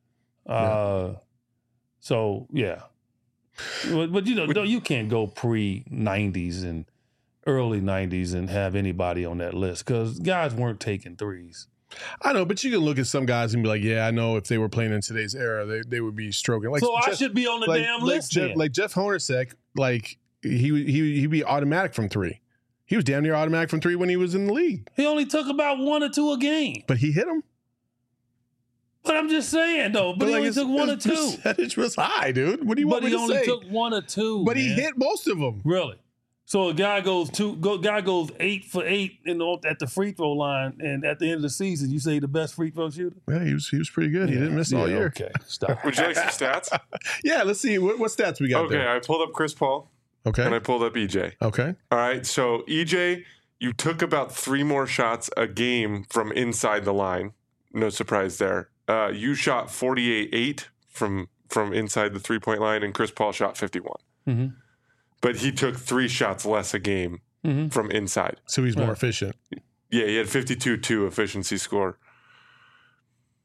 [SPEAKER 2] Uh, so yeah, but, but you know, no, you can't go pre nineties and early nineties and have anybody on that list because guys weren't taking threes.
[SPEAKER 1] I know, but you can look at some guys and be like, yeah, I know if they were playing in today's era, they, they would be stroking. Like
[SPEAKER 2] so I
[SPEAKER 1] Jeff-
[SPEAKER 2] should be on the
[SPEAKER 1] like,
[SPEAKER 2] damn
[SPEAKER 1] like
[SPEAKER 2] list.
[SPEAKER 1] Jeff,
[SPEAKER 2] then.
[SPEAKER 1] like Jeff Hornacek, like he he he'd be automatic from three. He was damn near automatic from three when he was in the league,
[SPEAKER 2] He only took about one or two a game.
[SPEAKER 1] but he hit them.
[SPEAKER 2] But I'm just saying though. But, he
[SPEAKER 1] like,
[SPEAKER 2] only
[SPEAKER 1] his-
[SPEAKER 2] took one or
[SPEAKER 1] his
[SPEAKER 2] two.
[SPEAKER 1] percentage was high, dude. What do you
[SPEAKER 2] But
[SPEAKER 1] want me
[SPEAKER 2] he
[SPEAKER 1] to
[SPEAKER 2] only
[SPEAKER 1] say?
[SPEAKER 2] took one or two.
[SPEAKER 1] but he
[SPEAKER 2] man.
[SPEAKER 1] hit most of them.
[SPEAKER 2] Really. So a guy goes two. Go, guy goes eight for eight in the, at the free throw line, and at the end of the season, you say the best free throw shooter.
[SPEAKER 1] Yeah, he was he was pretty good. he
[SPEAKER 2] Yeah,
[SPEAKER 1] didn't miss all
[SPEAKER 2] yeah,
[SPEAKER 1] year.
[SPEAKER 2] Okay, stop.
[SPEAKER 3] Would you like some stats?
[SPEAKER 1] Yeah, let's see what, what stats we got
[SPEAKER 3] Okay,
[SPEAKER 1] there.
[SPEAKER 3] I pulled up Chris Paul and I
[SPEAKER 1] Okay,
[SPEAKER 3] pulled up E J.
[SPEAKER 1] okay.
[SPEAKER 3] All right, so E J, you took about three more shots a game from inside the line. No surprise there. Uh, you shot forty-eight eight from from inside the three point line, and Chris Paul shot fifty-one.
[SPEAKER 2] Mm-hmm.
[SPEAKER 3] But he took three shots less a game
[SPEAKER 2] Mm-hmm.
[SPEAKER 3] from inside.
[SPEAKER 1] So he's more
[SPEAKER 2] Right.
[SPEAKER 1] efficient.
[SPEAKER 3] Yeah, he had fifty-two two efficiency score.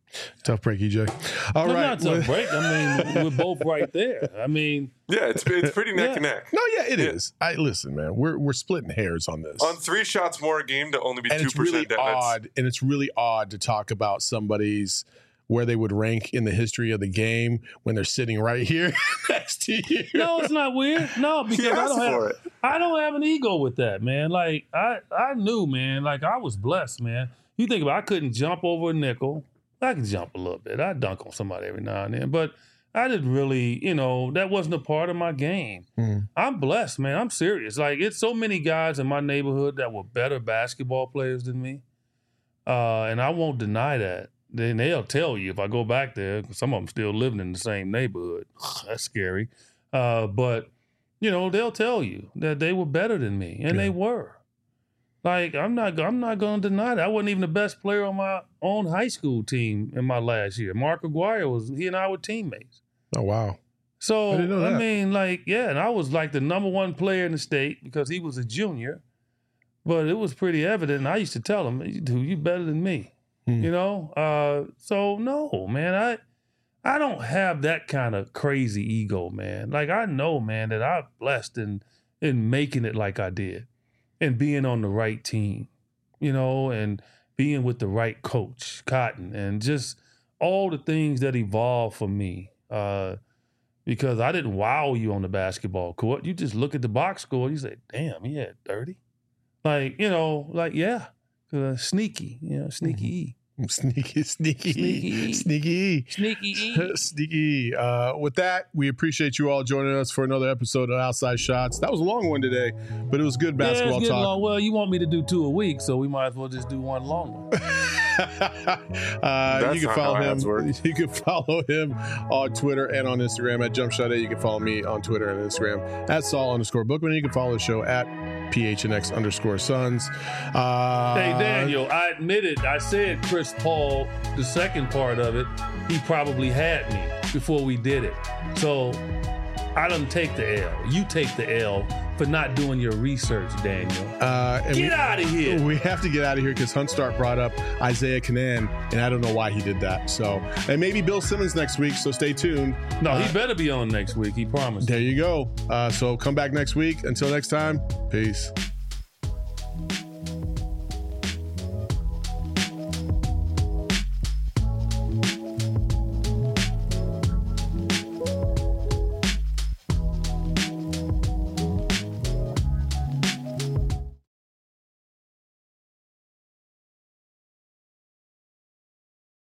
[SPEAKER 1] Tough break, E J. All
[SPEAKER 2] no,
[SPEAKER 1] right,
[SPEAKER 2] not tough break. I mean, we're both right there. I mean,
[SPEAKER 3] yeah, it's it's pretty neck
[SPEAKER 2] yeah.
[SPEAKER 3] and neck.
[SPEAKER 1] No, yeah, it
[SPEAKER 3] Yeah.
[SPEAKER 1] is. I listen, man. We're we're splitting hairs on this.
[SPEAKER 3] On three shots more a game to only be
[SPEAKER 1] and
[SPEAKER 3] two
[SPEAKER 1] it's really
[SPEAKER 3] percent.
[SPEAKER 1] odd, and it's really odd to talk about somebody's where they would rank in the history of the game when they're sitting right here next to you.
[SPEAKER 2] no, it's not weird. No, because I
[SPEAKER 3] asked
[SPEAKER 2] don't
[SPEAKER 3] for
[SPEAKER 2] have
[SPEAKER 3] it.
[SPEAKER 2] I don't have an ego with that, man. Like I I knew, man. Like I was blessed, man. You think about it, I couldn't jump over a nickel. I could jump a little bit. I dunk on somebody every now and then, but I didn't really, you know, that wasn't a part of my game.
[SPEAKER 1] Mm.
[SPEAKER 2] I'm blessed, man. I'm serious. Like it's so many guys in my neighborhood that were better basketball players than me, uh, and I won't deny that. Then they'll tell you if I go back there. Some of them still living in the same neighborhood. That's scary, uh, but you know they'll tell you that they were better than me, and
[SPEAKER 1] Yeah.
[SPEAKER 2] they were. Like I'm not, I'm not going to deny that. I wasn't even the best player on my own high school team in my last year. Mark Aguirre was. He and I were teammates.
[SPEAKER 1] Oh wow.
[SPEAKER 2] So
[SPEAKER 1] I didn't know
[SPEAKER 2] I
[SPEAKER 1] that.
[SPEAKER 2] mean, like, yeah, and I was like the number one player in the state because he was a junior. But it was pretty evident. And I used to tell him, "Dude, you better than me."
[SPEAKER 1] Hmm.
[SPEAKER 2] You know. Uh, so no, man, I I don't have that kind of crazy ego, man. Like I know, man, that I'm blessed in in making it like I did. And being on the right team, you know, and being with the right coach, Cotton, and just all the things that evolved for me. Uh, because I didn't wow you on the basketball court. You just look at the box score and you say, damn, he had thirty. Like, you know, like, yeah, uh, sneaky, you know, sneaky E.
[SPEAKER 1] Sneaky, sneaky,
[SPEAKER 2] Sneaky.
[SPEAKER 1] sneaky,
[SPEAKER 2] Sneaky E.
[SPEAKER 1] sneaky. Uh, with that, we appreciate you all joining us for another episode of Outside Shots. That was a long one today, but it was good
[SPEAKER 2] Yeah,
[SPEAKER 1] basketball
[SPEAKER 2] it's getting
[SPEAKER 1] talk.
[SPEAKER 2] long. Well, you want me to do two a week, so we might as well just do one long one.
[SPEAKER 1] uh, you can
[SPEAKER 3] not
[SPEAKER 1] follow
[SPEAKER 3] how
[SPEAKER 1] him.
[SPEAKER 3] ads work.
[SPEAKER 1] You can follow him on Twitter and on Instagram at Jumpshot A. You can follow me on Twitter and Instagram at Saul underscore Bookman. You can follow the show at P H N X underscore Sons. Uh,
[SPEAKER 2] Hey, Daniel, I admitted, I said Chris Paul, the second part of it, he probably had me before we did it. So I don't take the L. You take the L for not doing your research, Daniel.
[SPEAKER 1] Uh, and
[SPEAKER 2] Get
[SPEAKER 1] we-
[SPEAKER 2] out of here.
[SPEAKER 1] We have to get out of here because Huntstart brought up Isaiah Kanan, and I don't know why he did that. So, and maybe Bill Simmons next week. So stay tuned.
[SPEAKER 2] No,
[SPEAKER 1] Uh,
[SPEAKER 2] he better be on next week. He promised.
[SPEAKER 1] There you go. Uh, so come back next week. Until next time, peace.